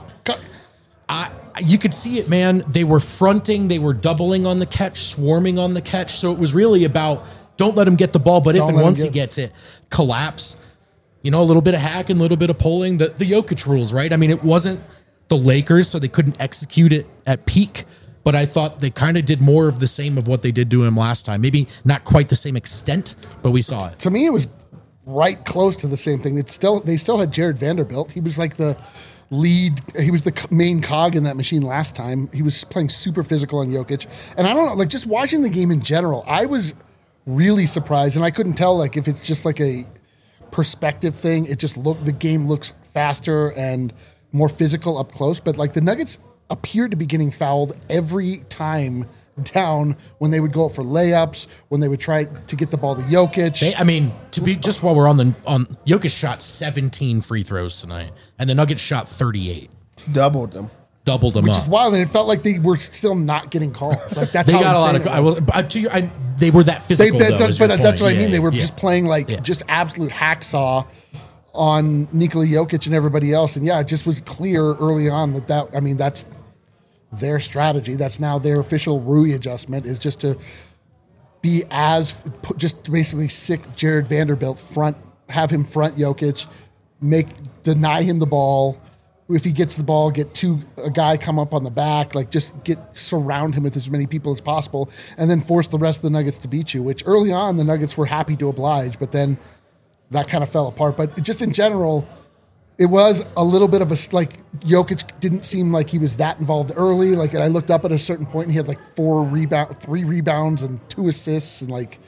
You could see it, man. They were fronting. They were doubling on the catch, swarming on the catch. So it was really about don't let him get the ball, but if and once he gets it, collapse. You know, a little bit of hacking, a little bit of pulling. The Jokic rules, right? I mean, it wasn't the Lakers, so they couldn't execute it at peak. But I thought they kind of did more of the same of what they did to him last time. Maybe not quite the same extent, but we saw it. To me, it was right close to the same thing. They still had Jared Vanderbilt. He was like the lead. He was the main cog in that machine last time. He was playing super physical on Jokic. And I don't know, like just watching the game in general, I was really surprised. And I couldn't tell like if it's just like a perspective thing. It just the game looks faster and more physical up close. But like the Nuggets appeared to be getting fouled every time down when they would go up for layups, when they would try to get the ball to Jokic. Just while we're on Jokic shot 17 free throws tonight, and the Nuggets shot 38. Doubled them Which is wild, and it felt like they were still not getting calls. Like that's they how got a lot of. They were that physical. That's what I mean. They were just playing like just absolute hacksaw on Nikola Jokic and everybody else, and it just was clear early on that's their strategy. That's now their official Rui adjustment is just to be just basically sick Jared Vanderbilt have him front Jokic, deny him the ball. If he gets the ball, a guy come up on the back, like just surround him with as many people as possible, and then force the rest of the Nuggets to beat you, which early on the Nuggets were happy to oblige, but then that kind of fell apart. But just in general, it was a little bit of Jokic didn't seem like he was that involved early. Like, and I looked up at a certain point and he had like 3 rebounds and 2 assists. And like,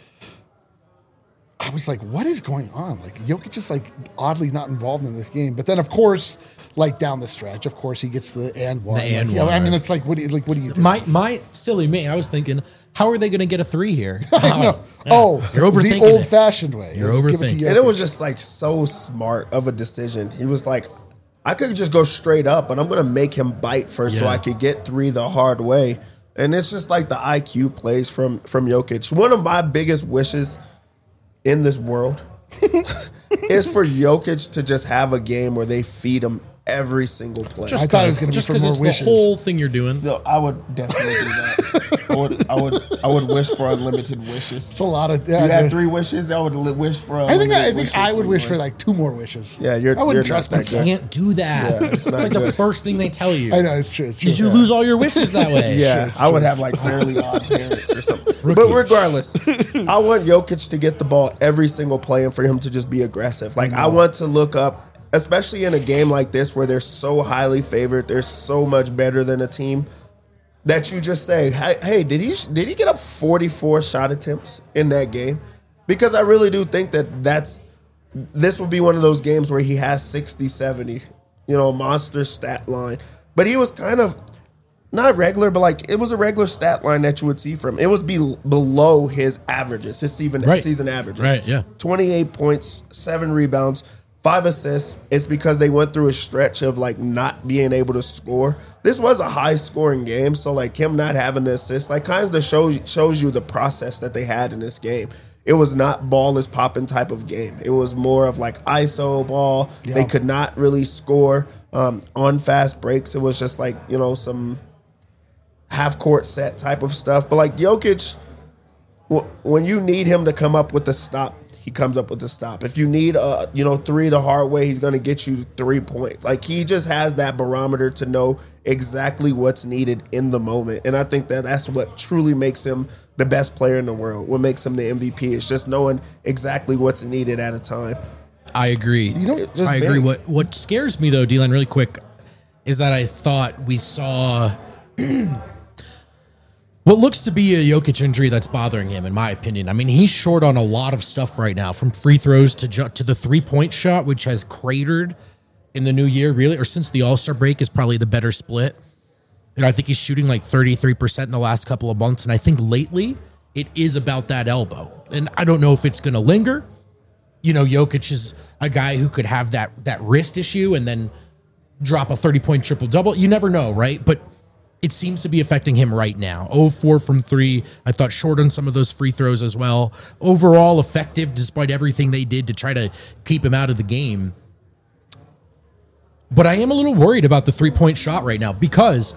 I was like, what is going on? Like Jokic is like oddly not involved in this game. But then of course, like down the stretch, of course he gets the and one. I mean, it's like, what do you do? My silly me, I was thinking, how are they going to get a 3 here? You're overthinking the old-fashioned way. You're overthinking. And it was just like so smart of a decision. He was like, I could just go straight up, but I'm going to make him bite first so I could get 3 the hard way. And it's just like the IQ plays from Jokic. One of my biggest wishes in this world is for Jokic to just have a game where they feed him every single play. I thought it was going to be for more wishes. The whole thing you're doing. No, I would definitely do that. I would wish for unlimited wishes. It's a lot of. You had 3 wishes. I would wish for. I think I would wish for like 2 more wishes. Yeah, I wouldn't trust You can't do that. Yeah, it's like the first thing they tell you. I know it's true. Did you lose all your wishes that way? Yeah, I would have like fairly odd parents or something. But regardless, I want Jokic to get the ball every single play and for him to just be aggressive. Like I want to look up. Especially in a game like this where they're so highly favored, they're so much better than a team, that you just say, hey, did he get up 44 shot attempts in that game? Because I really do think this will be one of those games where he has 60, 70, monster stat line. But he was kind of not regular, but like it was a regular stat line that you would see from him. It was below his averages, his season averages. Right, yeah. 28 points, 7 rebounds. 5 assists. It's because they went through a stretch of like not being able to score. This was a high scoring game, so like him not having the assist, like kind of shows you the process that they had in this game. It was not ball is popping type of game. It was more of like ISO ball. Yeah. They could not really score on fast breaks. It was just like some half court set type of stuff. But like Jokic, when you need him to come up with the stop, he comes up with a stop. If you need, 3 the hard way, he's going to get you 3 points. Like, he just has that barometer to know exactly what's needed in the moment. And I think that that's what truly makes him the best player in the world. What makes him the MVP is just knowing exactly what's needed at a time. I agree. I agree. What scares me, though, D-Line, really quick, is that I thought we saw what looks to be a Jokic injury that's bothering him, in my opinion. I mean, he's short on a lot of stuff right now, from free throws to the 3-point shot, which has cratered in the new year, really, or since the All-Star break is probably the better split. And I think he's shooting like 33% in the last couple of months. And I think lately it is about that elbow. And I don't know if it's going to linger. Jokic is a guy who could have that wrist issue and then drop a 30-point triple-double. You never know, right? But it seems to be affecting him right now. 0-4 from 3. I thought short on some of those free throws as well. Overall effective despite everything they did to try to keep him out of the game. But I am a little worried about the 3-point shot right now, because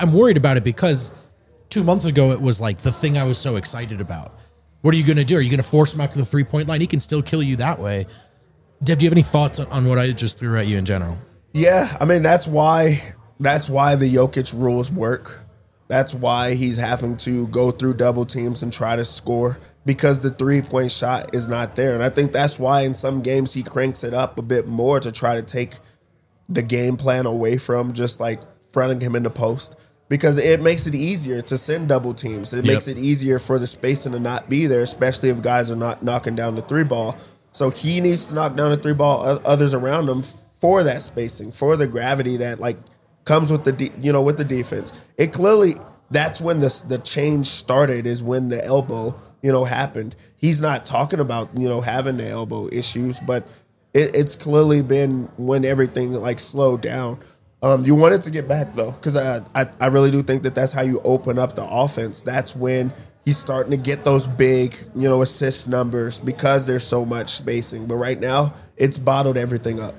2 months ago it was like the thing I was so excited about. What are you going to do? Are you going to force him out to the 3-point line? He can still kill you that way. Dev, do you have any thoughts on what I just threw at you in general? Yeah, I mean, that's why the Jokic rules work. That's why he's having to go through double teams and try to score, because the 3-point shot is not there. And I think that's why in some games he cranks it up a bit more to try to take the game plan away from just like fronting him in the post, because it makes it easier to send double teams. It makes it easier for the spacing to not be there, especially if guys are not knocking down the 3-ball. So he needs to knock down the 3-ball, others around him, for that spacing, for the gravity that like comes with with the defense. It clearly, that's when the change started, is when the elbow, happened. He's not talking about, having the elbow issues, but it's clearly been when everything like slowed down. You want it to get back though, because I really do think that that's how you open up the offense. That's when he's starting to get those big, assist numbers, because there's so much spacing. But right now, it's bottled everything up.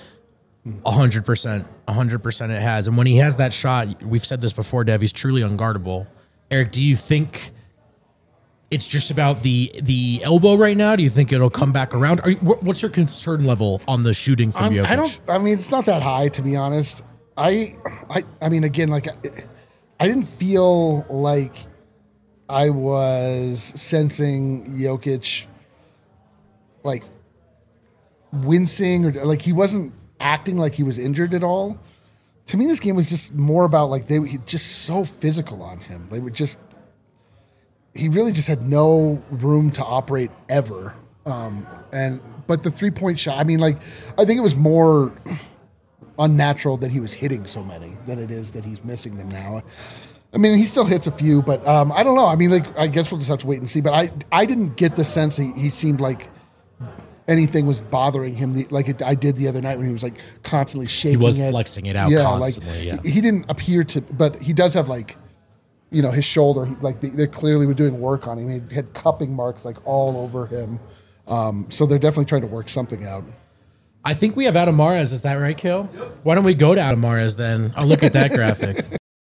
100% it has. And when he has that shot, we've said this before, Dev, he's truly unguardable. Eric, do you think it's just about the elbow right now? Do you think it'll come back around? What's your concern level on the shooting from Jokic? I mean, it's not that high, to be honest. I mean, again, like, I didn't feel like I was sensing Jokic like wincing, or like he wasn't acting like he was injured at all. To me, this game was just more about like they were just so physical on him. They were just, he really just had no room to operate ever. But the 3-point shot, I mean, like, I think it was more unnatural that he was hitting so many than it is that he's missing them now. I mean, he still hits a few, but I don't know. I mean, like, I guess we'll just have to wait and see. But I didn't get the sense he seemed like anything was bothering him I did the other night when he was like constantly shaking. He was flexing it out constantly. Like, he didn't appear to, but he does have like, his shoulder. They clearly were doing work on him. He had cupping marks like all over him. So they're definitely trying to work something out. I think we have Adam Mares. Is that right, Kill? Yep. Why don't we go to Adam Mares then? I'll look at that graphic.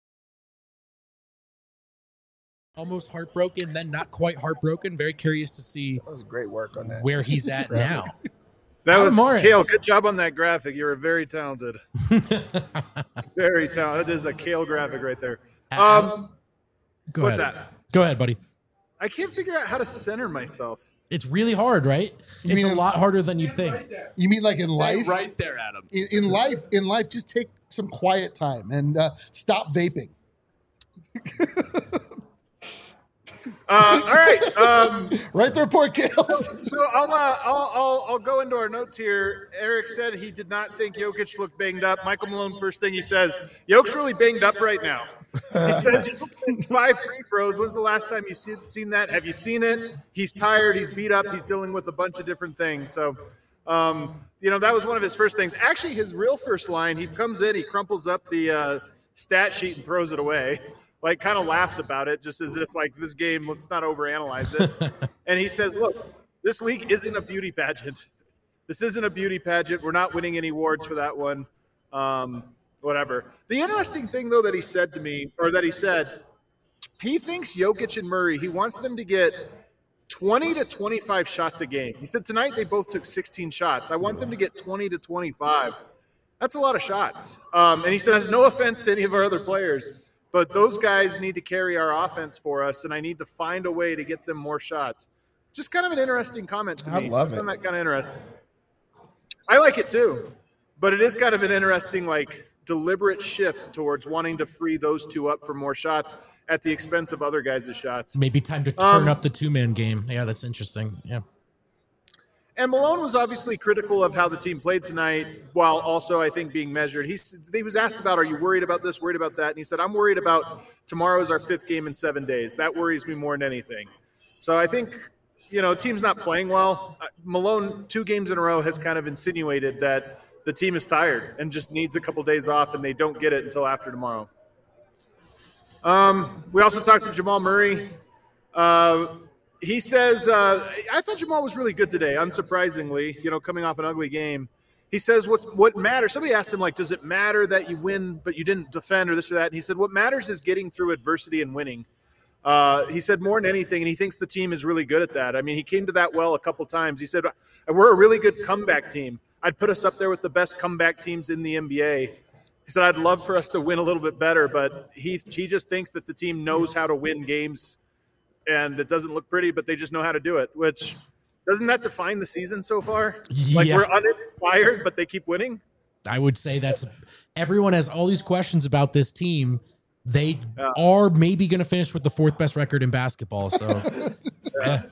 Almost heartbroken, then not quite heartbroken. Very curious to see. That was great work on that. Where he's at now. That Adam was Kale. Good job on that graphic. You were very talented. Very talented. That is a Kale graphic right there. What's that? Go ahead, buddy. I can't figure out how to center myself. It's really hard, right? It's a lot harder than you'd think. You mean like in life? Right there, Adam. In life, just take some quiet time and stop vaping. All right. Right there, poor kid. So I'll go into our notes here. Eric said he did not think Jokic looked banged up. Michael Malone, first thing he says, Jokic's really banged up right now. He says he's 5 free throws. When's the last time you've seen that? Have you seen it? He's tired. He's beat up. He's dealing with a bunch of different things. So, that was one of his first things. Actually, his real first line, he comes in, he crumples up the stat sheet and throws it away. Like, kind of laughs about it, just as if, like, this game, let's not overanalyze it. And he says, look, this league isn't a beauty pageant. This isn't a beauty pageant. We're not winning any awards for that one. Whatever. The interesting thing, though, that he said to me, or that he said, he thinks Jokic and Murray, he wants them to get 20 to 25 shots a game. He said tonight they both took 16 shots. I want them to get 20 to 25. That's a lot of shots. And he says, no offense to any of our other players, but those guys need to carry our offense for us, and I need to find a way to get them more shots. Just kind of an interesting comment to me. I love it. I find that kind of interesting. I like it too, but it is kind of an interesting, like, deliberate shift towards wanting to free those two up for more shots at the expense of other guys' shots. Maybe time to turn up the two-man game. Yeah, that's interesting. Yeah. And Malone was obviously critical of how the team played tonight, while also, I think, being measured. He was asked about, are you worried about this, worried about that? And he said, I'm worried about tomorrow is our 5th game in 7 days. That worries me more than anything. So I think, team's not playing well. Malone, 2 games in a row, has kind of insinuated that the team is tired and just needs a couple days off, and they don't get it until after tomorrow. We also talked to Jamal Murray. He says, I thought Jamal was really good today, unsurprisingly, coming off an ugly game. He says, what matters? Somebody asked him, like, does it matter that you win but you didn't defend or this or that? And he said, what matters is getting through adversity and winning. He said more than anything, and he thinks the team is really good at that. I mean, he came to that well a couple times. He said, we're a really good comeback team. I'd put us up there with the best comeback teams in the NBA. He said, I'd love for us to win a little bit better, but he just thinks that the team knows how to win games, and it doesn't look pretty, but they just know how to do it, which doesn't that define the season so far? Like, we're uninspired, but they keep winning? I would say everyone has all these questions about this team. They are maybe going to finish with the 4th best record in basketball. So, Are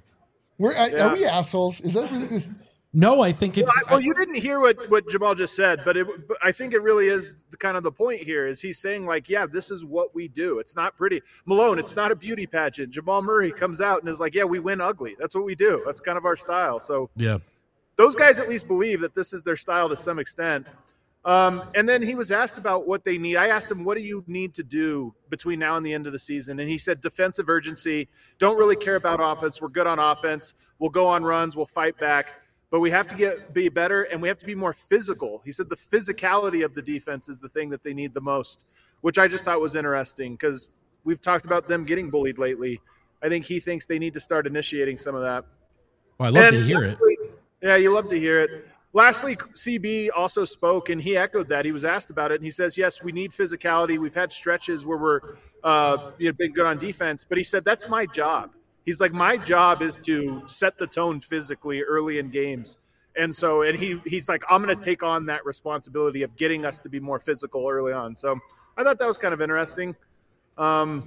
we assholes? Is that really? No, I think it's. Well, you didn't hear what Jamal just said, but I think it really is kind of the point here. Is he's saying, like, yeah, this is what we do. It's not pretty. Malone, it's not a beauty pageant. Jamal Murray comes out and is like, yeah, we win ugly. That's what we do. That's kind of our style. So yeah, those guys at least believe that this is their style to some extent. And then he was asked about what they need. I asked him, what do you need to do between now and the end of the season? And he said, defensive urgency. Don't really care about offense. We're good on offense. We'll go on runs. We'll fight back. But we have to be better, and we have to be more physical. He said the physicality of the defense is the thing that they need the most, which I just thought was interesting because we've talked about them getting bullied lately. I think he thinks they need to start initiating some of that. Well, I love to hear it. Yeah, you love to hear it. Lastly, CB also spoke, and he echoed that. He was asked about it, and he says, yes, we need physicality. We've had stretches where we're been good on defense, but he said, that's my job. He's like, my job is to set the tone physically early in games. And so, he's like, I'm going to take on that responsibility of getting us to be more physical early on. So I thought that was kind of interesting. The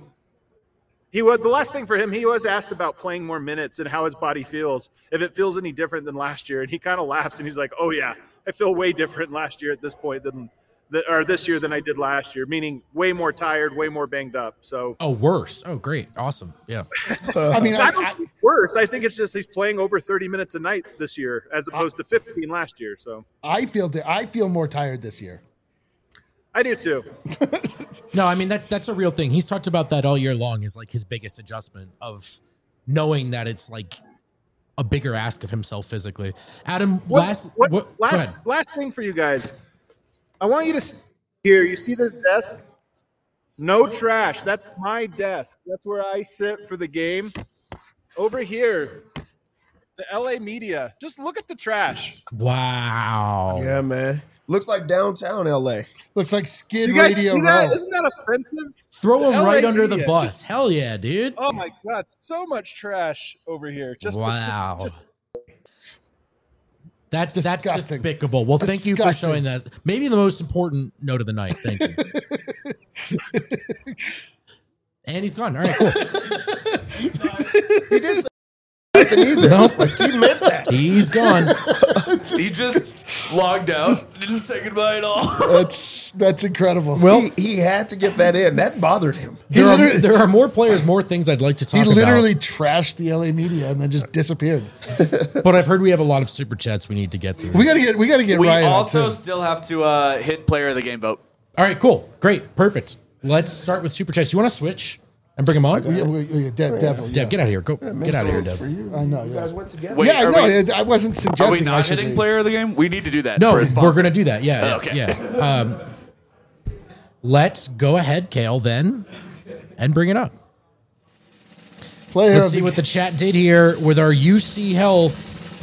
last thing for him, he was asked about playing more minutes and how his body feels, if it feels any different than last year. And he kind of laughs and he's like, oh yeah, I feel way different last year at this point or this year than I did last year, meaning way more tired, way more banged up. So worse. Oh, great. Awesome. Yeah. I mean, I don't think worse. I think it's just he's playing over 30 minutes a night this year as opposed to 15 last year. So I feel more tired this year. I do too. No, I mean, that's a real thing. He's talked about that all year long, is like his biggest adjustment of knowing that it's like a bigger ask of himself physically. Adam, last thing for you guys. I want you to see here. You see this desk? No trash. That's my desk. That's where I sit for the game. Over here, the LA media. Just look at the trash. Wow. Yeah, man. Looks like downtown LA. Looks like Skid Radio Row. Isn't that offensive? Throw him right under the bus. Hell yeah, dude. Oh my God, so much trash over here. Wow. That's disgusting. despicable. Well, thank you for showing that. Maybe the most important note of the night. Thank you. And he's gone. All right, cool. He did say nothing either. Nope. He meant that. He's gone. He just logged out. Didn't say goodbye at all. That's incredible. Well, he had to get that in. That bothered him. There are more players, more things I'd like to talk about. He literally trashed the LA media and then just disappeared. But I've heard we have a lot of super chats we need to get through. We gotta get We Ryan also still have to hit player of the game vote. All right, cool, great, perfect. Let's start with super chats. You want to switch and bring him on? Definitely. Dev, get out of here. Go. Get out of here, Dev. I know. You guys went together. Wait, Yeah, I know. I wasn't suggesting. Are we not I should hitting leave. player of the game? We need to do that. No, for a we're sponsor. going to do that. Yeah. Okay. Yeah. Let's go ahead, Kale, then, and bring it up. Player Let's of see the- what the chat did here with our UC Health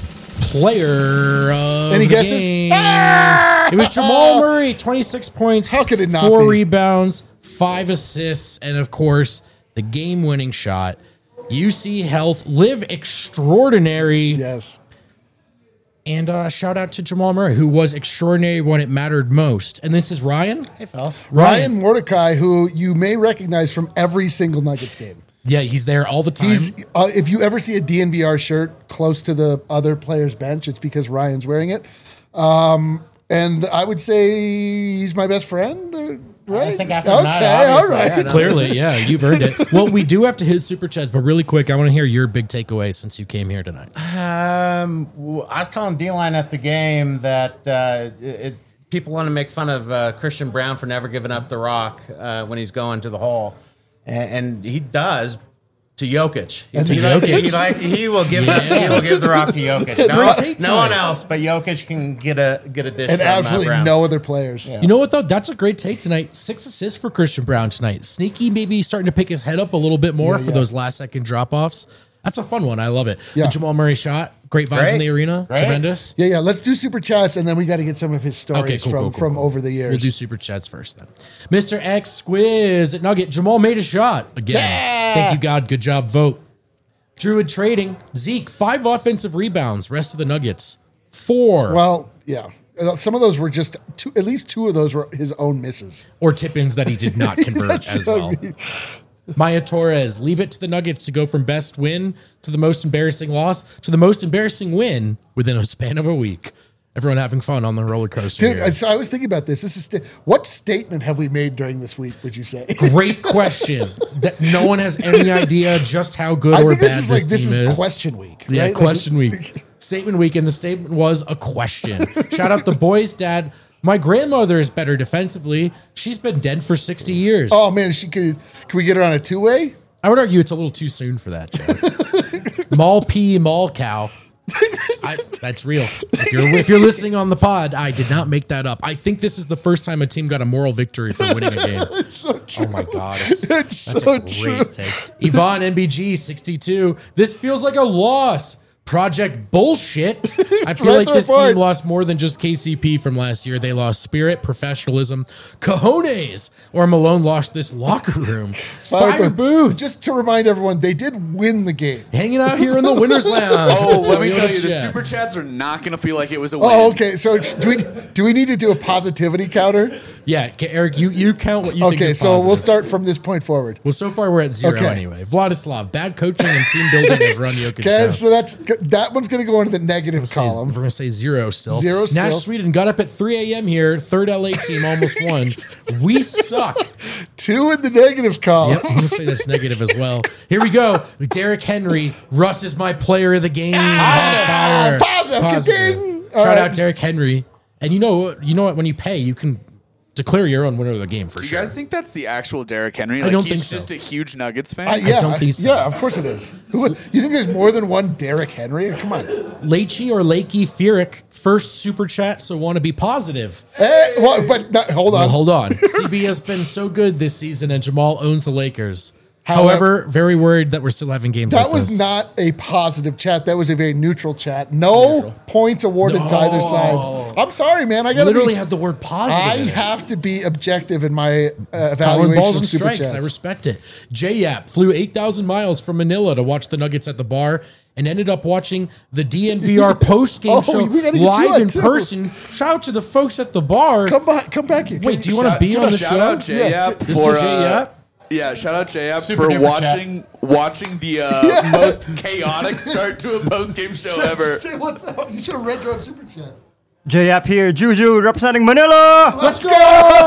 player of Any the guesses? game. It was Jamal Murray, 26 points. How could it not 4 be? rebounds, 5 assists, and of course, the game-winning shot. UC Health live extraordinary. Yes. And shout out to Jamal Murray, who was extraordinary when it mattered most. And this is Ryan. Hey, fellas. Ryan Mordecai, who you may recognize from every single Nuggets game. Yeah, he's there all the time. He's if you ever see a DNVR shirt close to the other player's bench, it's because Ryan's wearing it. And I would say he's my best friend. Right? I think after tonight, obviously, yeah, no. Clearly, yeah, you've earned it. Well, we do have to hit super chats, but really quick, I want to hear your big takeaway since you came here tonight. I was telling D-Line at the game that people want to make fun of Christian Brown for never giving up the rock when he's going to the hole, and he does to Jokic. He will give the rock to Jokic. No one else, but Jokic can get a dish. And from absolutely Brown. no other players. You know what, though? That's a great take tonight. 6 assists for Christian Brown tonight. Sneaky, maybe starting to pick his head up a little bit more for those last-second drop-offs. That's a fun one. I love it. Yeah. The Jamal Murray shot. Great vibes in the arena. Great. Tremendous. Yeah. Let's do super chats, and then we got to get some of his stories from over the years. We'll do super chats first then. Mr. X Squiz at Nugget. Jamal made a shot again. Yeah. Thank you, God. Good job. Vote. Druid trading. Zeke, 5 offensive rebounds. Rest of the Nuggets, 4. Well, yeah. Some of those were just at least 2 of those were his own misses. Or tip-ins that he did not convert That's as what I well. mean. Maya Torres, leave it to the Nuggets to go from best win to the most embarrassing loss to the most embarrassing win within a span of a week. Everyone having fun on the roller coaster. Dude, here. so I was thinking about this. What statement have we made during this week, would you say? Great question. That no one has any idea just how good I or think bad this this team is question week. Yeah, right? question week. Statement week, and the statement was a question. Shout out the boys' dad. My grandmother is better defensively. She's been dead for 60 years. Oh, man, can we get her on a 2-way? I would argue it's a little too soon for that, Joe. Mall P, Mall Cow. That's real. If you're listening on the pod, I did not make that up. I think this is the first time a team got a moral victory for winning a game. It's so true. Oh my God. It's That's so a true. great take. Yvonne NBG 62. This feels like a loss. Project bullshit. I feel like this team lost more than just KCP from last year. They lost spirit, professionalism, cojones, or Malone lost this locker room. Fire Booth. Just to remind everyone, they did win the game. Hanging out here in the winner's lounge. Oh, let me tell you, the Chat. super chats are not going to feel like it was a win. Oh, okay. So do we need to do a positivity counter? Yeah, Eric, you count what you think Okay, is so positive. we'll start from this point forward. Well, so far we're at 0 Okay. anyway. Vladislav, bad coaching and team building has run Jokic Okay, down. so that one's going to go into the negative column. We're going to say 0 still. 0 still. Nash Sweden got up at 3 a.m. here. Third LA team almost won. We suck. 2 in the negative column. Yep, I'm going to say that's negative as well. Here we go. Derrick Henry. Russ is my player of the game. On fire. Positive. Ka-ding. All Shout right. out Derrick Henry. And you know what? When you pay, you can declare your own winner of the game for Do you sure. guys think that's the actual Derrick Henry? I don't he's think so. just a huge Nuggets fan? Yeah, don't think so. Yeah, of course it is. You think there's more than one Derrick Henry? Come on. Leachy or Lakey Fierick, first super chat, so want to be positive. Hold on. Well, hold on. CB has been so good this season, and Jamal owns the Lakers. However, However, very worried that we're still having games that like was this. not a positive chat. That was a very neutral chat. No points awarded to either side. I'm sorry, man. I got Literally had the word positive I in it. have to be objective in my Calling evaluation balls of and super strikes. chats. I respect it. J-Yap flew 8,000 miles from Manila to watch the Nuggets at the bar and ended up watching the DNVR post-game Oh, show we gotta get you live on, in too. person. Shout out to the folks at the bar. Come back here. Wait, do you want to be on the shout show? out J-Yap This for is J-Yap? Yeah, shout out J-Yap Super for duper watching the most chaotic start to a post-game show ever. Say what's up. You should have read your own super chat. J-App here, Juju representing Manila. Let's go!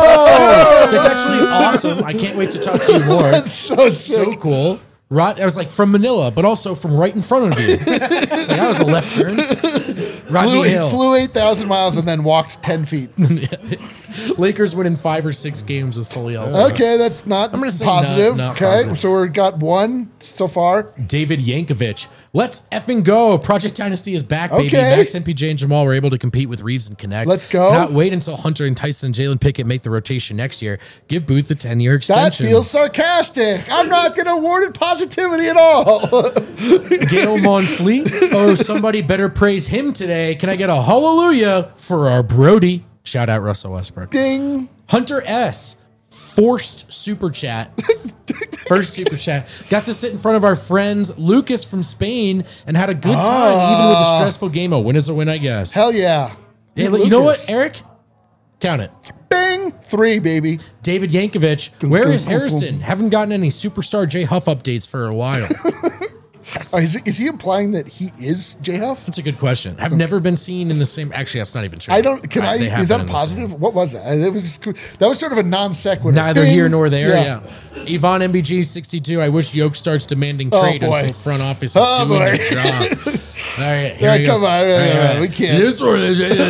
It's actually awesome. I can't wait to talk to you more. That's so sick. So cool. I was like from Manila, but also from right in front of you. It's like that was a left turn. Rodney Hill. Flew 8,000 miles and then walked 10 feet. Lakers win in 5 or 6 games with fully healthy. Okay, that's not I'm gonna say positive. not Okay, positive. so we've got one so far. David Yankovic. Let's effing go. Project Dynasty is back, baby. Okay. Max, MPJ, and Jamal were able to compete with Reeves and Connect. Let's go. Not wait until Hunter and Tyson and Jalen Pickett make the rotation next year. Give Booth a 10-year That extension. feels sarcastic. I'm not going to award it positivity at all. Gail Monfleet. Oh, somebody better praise him today. Can I get a hallelujah for our Brody? Shout out Russell Westbrook. Ding. Hunter S. Forced super chat. First super chat. Got to sit in front of our friends Lucas from Spain and had a good time, even with a stressful game. A win is a win, I guess. Hell yeah. Hey, Lucas. you know what, Eric? Count it. Bing. 3, baby. David Yankovic. Where is Harrison? Haven't gotten any Superstar J Huff updates for a while. Is he implying that he is J Huff? That's a good question. Have never been seen in the same. Actually, that's not even true. I don't. Can I? They have Is been that in the positive? same. What was that? It was that was sort of a non sequitur. Neither Bing. here nor there. Yeah. Yvonne MBG 62. I wish Yoke starts demanding trade boy. until front office is doing their job. All right, here Yeah, we go. come on, All right. we can't. This or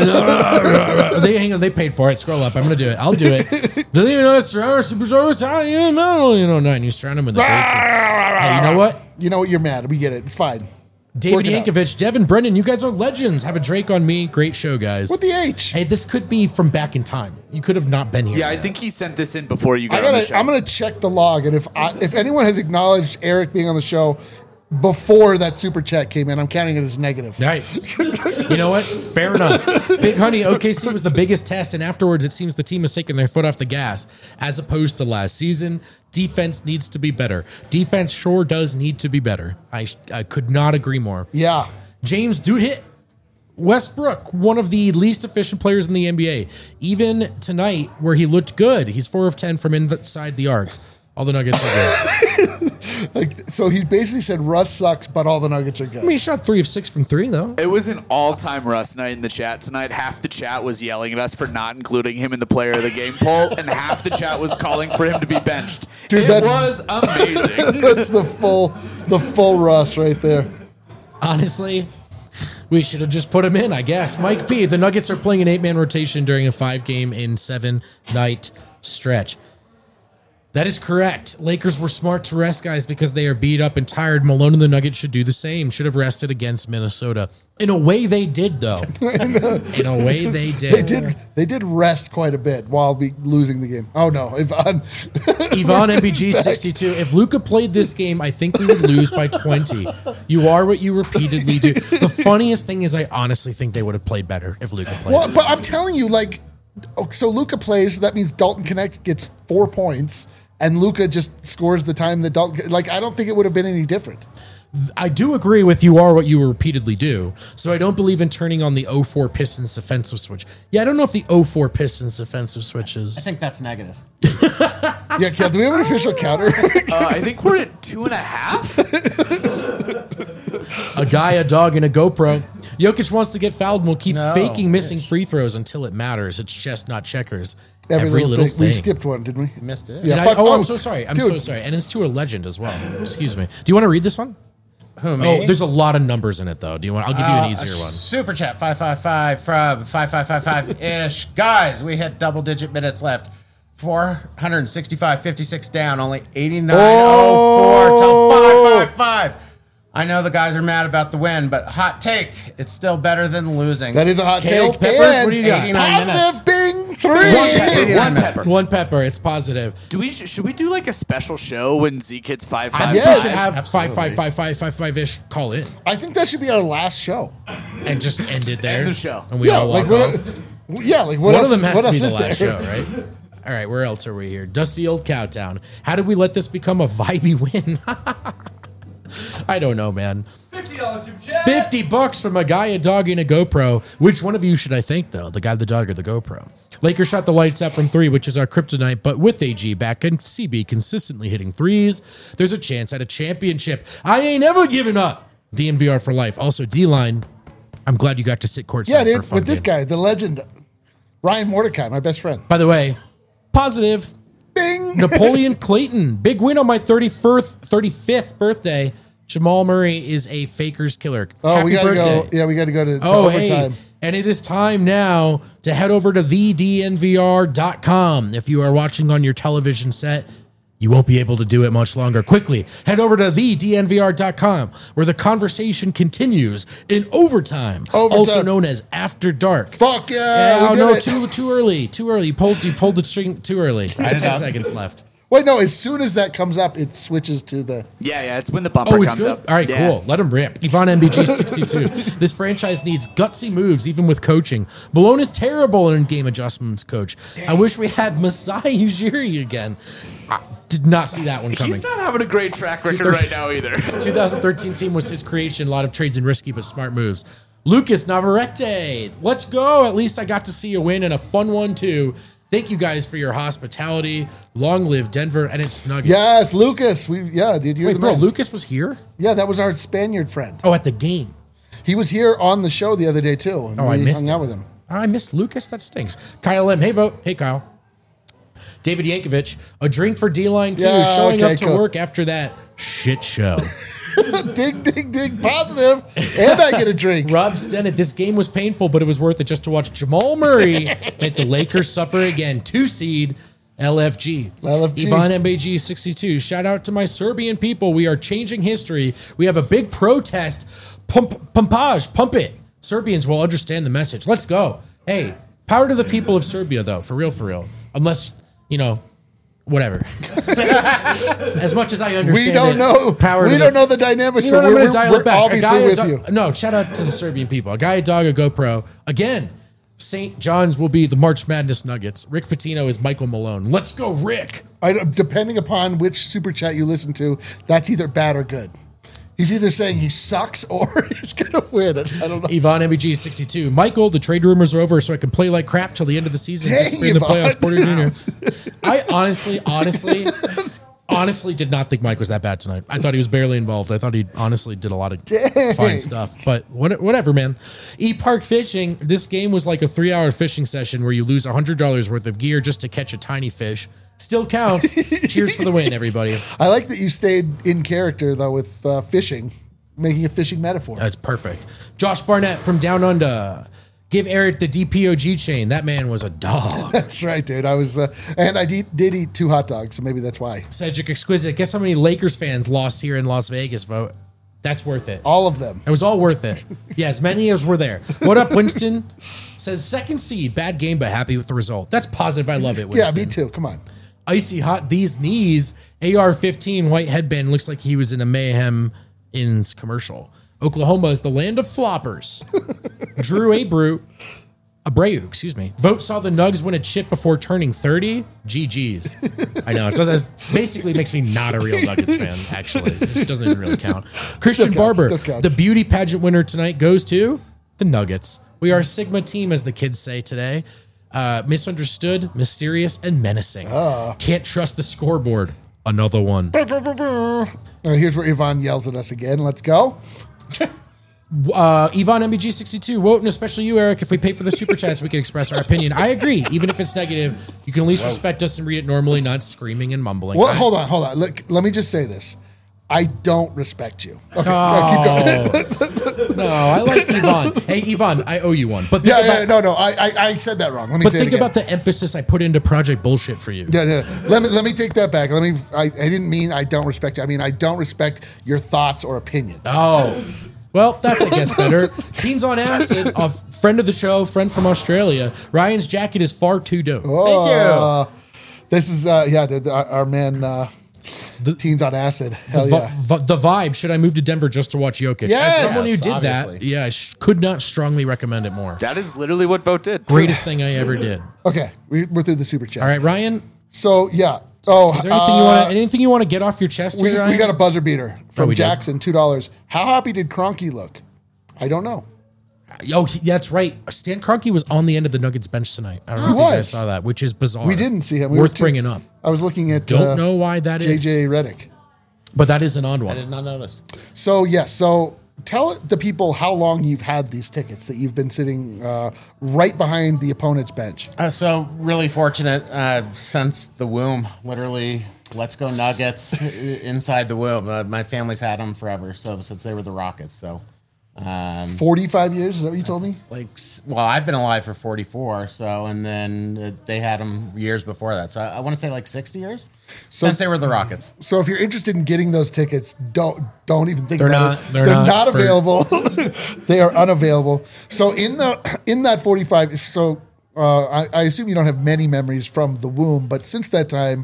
hang on, they paid for it. Scroll up. I'm gonna do it. I'll do it. Doesn't even know it's surrounded Superstar was telling you, nine. You surround him with a great team. Hey, you know what? You know what? You're mad. We get it. It's fine. David Work it out. Yankovic, Devin Brennan, you guys are legends. Have a Drake on me. Great show, guys. What the H? Hey, this could be from back in time. You could have not been here. Yeah, I think he sent this in before you I'm got on the show. gonna check the log, and if anyone has acknowledged Eric being on the show before that super chat came in, I'm counting it as negative. All right. You know what? Fair enough. Big Honey, OKC was the biggest test, and afterwards it seems the team has taken their foot off the gas as opposed to last season. Defense needs to be better. Defense sure does need to be better. I could not agree more. Yeah. James, dude, hit Westbrook, one of the least efficient players in the NBA. Even tonight, where he looked good, he's 4 of 10 from inside the arc. All the Nuggets are good. So he basically said Russ sucks, but all the Nuggets are good. I mean, he shot 3 of 6 from 3, though. It was an all-time Russ night in the chat tonight. Half the chat was yelling at us for not including him in the player of the game poll, and half the chat was calling for him to be benched. Dude, it was amazing. That's the full Russ right there. Honestly, we should have just put him in, I guess. Mike P, the Nuggets are playing an 8-man rotation during a 5-game in 7-night stretch. That is correct. Lakers were smart to rest guys because they are beat up and tired. Malone and the Nuggets should do the same. Should have rested against Minnesota. In a way they did, though. In a way they did. They did rest quite a bit while losing the game. Oh no, Yvonne MBG 62. If Luka played this game, I think we would lose by 20. You are what you repeatedly do. The funniest thing is I honestly think they would have played better if Luka played. Well, but I'm telling you, so Luka plays. That means Dalton Connect gets 4 points, and Luka just scores the time that Dalton. I don't think it would have been any different. I do agree with you are what you repeatedly do. So I don't believe in turning on the 04 Pistons defensive switch. Yeah, I don't know if the 04 Pistons defensive switch I is. think that's negative. Yeah, Kel, do we have an official counter? I think we're at 2.5. A guy, a dog, and a GoPro. Jokic wants to get fouled and will keep No, faking missing free throws until it matters. It's chess, not checkers. Every little thing. We skipped one, didn't we? Missed it. Did Yeah, I? fuck- Oh, I'm oh, so sorry. I'm dude. so sorry. And it's to a legend as well. Excuse me. Do you want to read this one? Who, me? Oh, there's a lot of numbers in it, though. Do you want? I'll give you an easier one. Super chat 555 from 5555 ish. Guys, we had double-digit minutes left. 465, 56 down, only 89.04 till 555. I know the guys are mad about the win, but hot take, it's still better than losing. That is a hot Kale take. Peppers, And what do you got? 89 minutes. positive Bing 3. One pepper. One pepper. It's positive. Should we do like a special show when Zeke hits 555? I think Yes. we should have Absolutely. 5555555-ish call in I think that should be our last show. and just end it there. end the show. And we all walk off. what One else of them has what to be else the is last there? show, right? All right, where else are we here? Dusty Old Cowtown. How did we let this become a vibey win? I don't know, man. $50 super chat. $50 from a guy, a dog, and a GoPro. Which one of you should I thank, though? The guy, the dog, or the GoPro? Lakers shot the lights out from 3, which is our kryptonite, but with AG back and CB consistently hitting threes, there's a chance at a championship. I ain't never giving up. DNVR for life. Also, D-Line, I'm glad you got to sit courtside Yeah, for a dude, fun with this game. guy, the legend, Ryan Mordecai, my best friend. By the way, positive. Bing. Napoleon Clayton, big win on my 35th birthday. Jamal Murray is a faker's killer. Oh, Happy we gotta birthday. go. Yeah, we gotta go to Oh, hey, overtime. And it is time now to head over to thednvr.com. If you are watching on your television set, you won't be able to do it much longer. Quickly, head over to thednvr.com, where the conversation continues in overtime, also known as After Dark. Fuck yeah! Too early. You pulled the string too early. There's 10 seconds left. Wait, no, as soon as that comes up, it switches to the... Yeah, it's when the bumper comes up. All right, cool. Let him rip. Ivan MBG 62. This franchise needs gutsy moves, even with coaching. Malone is terrible in game adjustments, coach. Dang. I wish we had Masai Ujiri again. I did not see that one coming. He's not having a great track record right now either. 2013 team was his creation. A lot of trades and risky, but smart moves. Lucas Navarrete. Let's go. At least I got to see a win and a fun one, too. Thank you guys for your hospitality. Long live Denver and its Nuggets. Yes, Lucas. Wait, bro, Lucas was here? Yeah, that was our Spaniard friend. Oh, at the game. He was here on the show the other day, too. And I missed hung out with him. I missed Lucas? That stinks. Kyle M. Hey, vote. Hey, Kyle. David Yankovic. A drink for D-Line, too. Yeah, showing up to work after that shit show. dig, positive. And I get a drink. Rob Stennett, this game was painful, but it was worth it just to watch Jamal Murray make the Lakers suffer again. 2 seed LFG. Ivan MBG 62. Shout out to my Serbian people. We are changing history. We have a big protest. Pumpage. Pump it. Serbians will understand the message. Let's go. Hey, power to the people of Serbia, though. For real. Unless, whatever. As much as I understand, we don't know. We don't know the dynamics. I'm going to dial it back. Obviously with you. No, shout out to the Serbian people. A guy, a dog, a GoPro. Again, St. John's will be the March Madness Nuggets. Rick Pitino is Michael Malone. Let's go, Rick. Depending upon which super chat you listen to, that's either bad or good. He's either saying he sucks or he's going to win it. I don't know. Ivan MBG 62. Michael, the trade rumors are over, so I can play like crap till the end of the season. Dang, just in the playoffs, Porter Jr. I honestly did not think Mike was that bad tonight. I thought he was barely involved. I thought he honestly did a lot of fine stuff. But whatever, man. E-Park Fishing, this game was like a 3-hour fishing session where you lose $100 worth of gear just to catch a tiny fish. Still counts. Cheers for the win, everybody. I like that you stayed in character, though, with fishing, making a fishing metaphor. That's perfect. Josh Barnett from Down Under. Give Eric the DPOG chain. That man was a dog. That's right, dude. I was, and I did eat 2 hot dogs, so maybe that's why. Cedric Exquisite. Guess how many Lakers fans lost here in Las Vegas, vote? That's worth it. All of them. It was all worth it. Yeah, as many as were there. What up, Winston? Says second seed. Bad game, but happy with the result. That's positive. I love it, Winston. Yeah, me too. Come on. Icy hot these knees. AR-15 white headband looks like he was in a Mayhem Inns commercial. Oklahoma is the land of floppers. Drew Abreu, Vote saw the Nugs win a chip before turning 30. GG's. I know. It basically makes me not a real Nuggets fan, actually. It doesn't even really count. Christian Barber, the beauty pageant winner tonight goes to the Nuggets. We are a Sigma team, as the kids say today. Misunderstood, mysterious, and menacing. Can't trust the scoreboard. Another one. Here's where Ivan yells at us again. Let's go. Ivan MBG 62. Vote, and especially you, Eric. If we pay for the super chats, we can express our opinion. I agree. Even if it's negative, you can at least respect us and read it normally, not screaming and mumbling. Well, hold on. Look, let me just say this. I don't respect you. Okay, keep going. No, I like Ivan. Hey, Ivan, I owe you one. But I said that wrong. Let me say it again. Think about the emphasis I put into Project Bullshit for you. Yeah. Let me take that back. I didn't mean I don't respect you. I mean I don't respect your thoughts or opinions. Oh. Well, that's, I guess, better. Teens on Acid, a friend of the show, friend from Australia. Ryan's jacket is far too dope. Thank you. This is, our man... Teens on Acid. The vibe. Should I move to Denver just to watch Jokic? Yes, as someone who did that, I could not strongly recommend it more. That is literally what Vote did. Greatest thing I ever did. Okay, we're through the super chat. All right, Ryan. So yeah. Oh, is there anything you want to get off your chest? We got a buzzer beater from Jackson, $2. How happy did Kroenke look? I don't know. Oh, that's right. Stan Kroenke was on the end of the Nuggets bench tonight. I don't know if you guys saw that, which is bizarre. We didn't see him. Worth bringing up. I was looking at. Don't know why that is. JJ Redick. But that is an odd one. I did not notice. So So tell the people how long you've had these tickets that you've been sitting right behind the opponent's bench. So really fortunate since the womb, literally. Let's go Nuggets inside the womb. My family's had them forever. So since they were the Rockets, so. 45 years, is that what you told me? Well, I've been alive for 44, so, and then they had him years before that. So I want to say like 60 years since they were the Rockets. So if you're interested in getting those tickets, don't even think They're about not- it. they're They're not not for- available. They are unavailable. So in that 45, so I assume you don't have many memories from the womb, but since that time,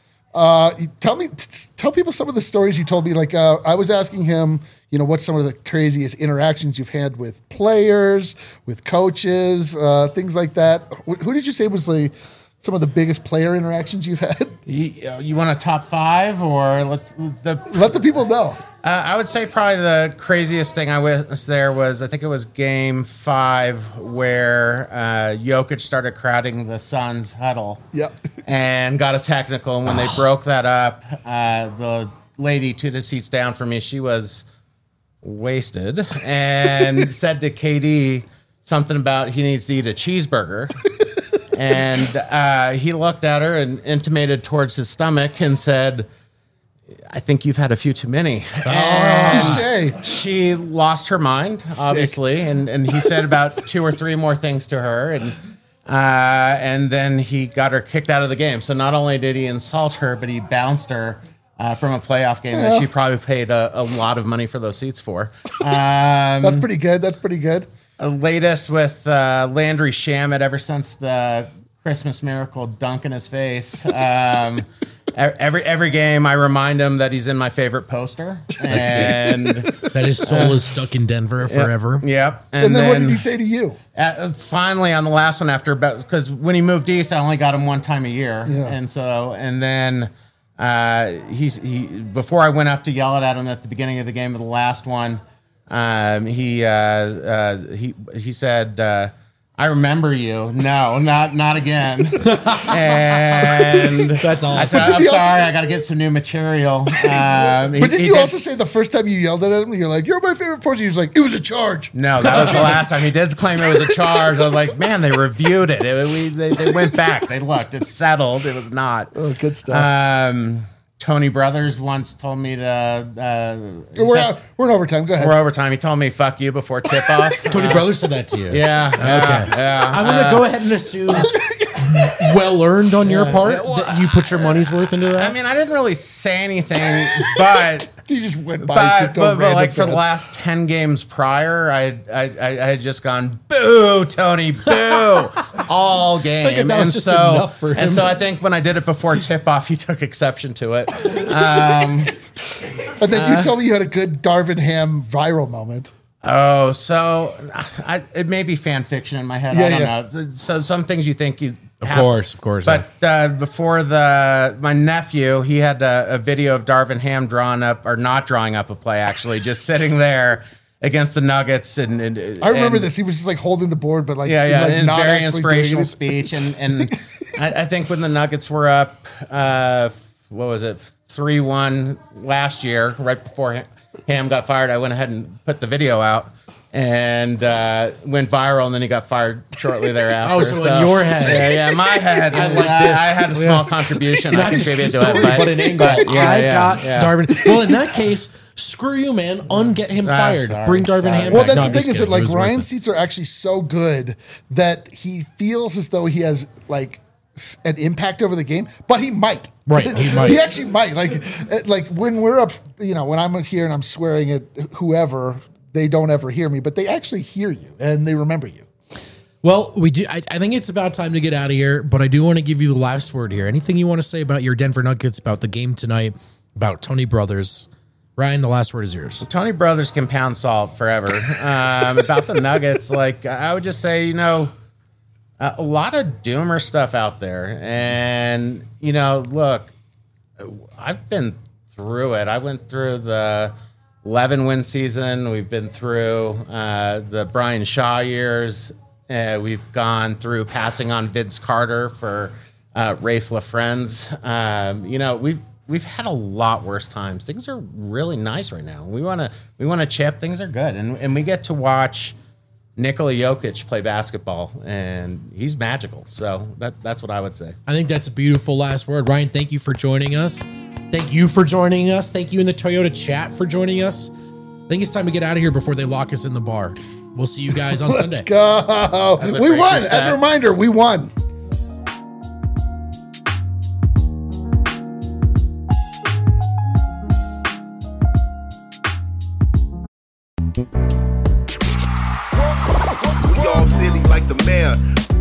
tell people some of the stories you told me. Like I was asking him, what's some of the craziest interactions you've had with players, with coaches, things like that. Who did you say was some of the biggest player interactions you've had? You want a top 5 or Let the people know. I would say probably the craziest thing I witnessed there was, I think it was game 5 where Jokic started crowding the Suns huddle. Yep. And got a technical. And when they broke that up, the lady 2 seats down from me, she was wasted and said to KD something about he needs to eat a cheeseburger. And he looked at her and intimated towards his stomach and said, I think you've had a few too many. And Touche. she lost her mind, obviously. And he said about 2 or 3 more things to her. And then he got her kicked out of the game. So not only did he insult her, but he bounced her from a playoff game that she probably paid a lot of money for those seats for. That's pretty good. Latest with Landry Shamet ever since the Christmas Miracle dunk in his face. Every game, I remind him that he's in my favorite poster. And That his soul is stuck in Denver forever. Yep. And then what did he say to you? Finally, on the last one, because when he moved east, I only got him one time a year, Yeah. and then he before I went up to yell at him at the beginning of the game of the last one, he said, I remember you. No, not again. And That's awesome. I said, I'm sorry, I got to get some new material. But did you also say the first time you yelled at him, you're like, you're my favorite person? He was like, it was a charge. No, that was the last time. He did claim it was a charge. I was like, man, they reviewed it. They went back. They looked. It's settled. It was not. Oh, good stuff. Tony Brothers once told me to... We're in overtime. Go ahead. We're overtime. He told me, fuck you, before tip-off. Tony Brothers said that to you. Yeah. Yeah. I'm going to go ahead and assume well earned on your part that you put your money's worth into that. I mean, I didn't really say anything, but... You just went by. But like for the last 10 games prior, I had just gone, boo, Tony, boo, all game. Like, that was just enough for him. And so I think when I did it before tip-off, he took exception to it. And then you told me you had a good Darvin Ham viral moment. Oh, so it may be fan fiction in my head. I don't know. So some things you think you... Of course. But before my nephew, he had a video of Darvin Ham not drawing up a play, actually, just sitting there against the Nuggets. And I remember this. He was just like holding the board, but like, and not very actually inspirational doing it. speech. And I think when the Nuggets were up, what was it, 3-1 last year, right before Ham got fired, I went ahead and put the video out. And went viral, and then he got fired shortly thereafter. Oh, so in your head. Yeah, my head. I like this. I had a small contribution. I Not just contributed a to it. story, but an angle. yeah. Darvin. Well, in that case, screw you, man. Unget him fired. Sorry, Bring Darvin sorry. Ham Well, back. that's No, the I'm thing is just that kidding. like It was Ryan's worth it. seats are actually so good that he feels as though he has like an impact over the game, but he might. Right, he might. He actually might. Like when we're up, when I'm here and I'm swearing at whoever, they don't ever hear me, but they actually hear you and they remember you. Well, we do. I think it's about time to get out of here, but I do want to give you the last word here. Anything you want to say about your Denver Nuggets, about the game tonight, about Tony Brothers? Ryan, the last word is yours. Tony Brothers can pound salt forever. About the Nuggets, like I would just say, a lot of doomer stuff out there. And, look, I've been through it. I went through the 11-win season. We've been through the Brian Shaw years. We've gone through passing on Vince Carter for Rafe LaFrenz. We've had a lot worse times. Things are really nice right now. We want to chip. Things are good, and we get to watch Nikola Jokic play basketball, and he's magical. So that's what I would say. I think that's a beautiful last word. Ryan, thank you for joining us. Thank you for joining us. Thank you in the Toyota chat for joining us. think it's time to get out of here before they lock us in the bar. We'll see you guys on Sunday. Let's go. We won. As a reminder, we won. We all silly like the mayor.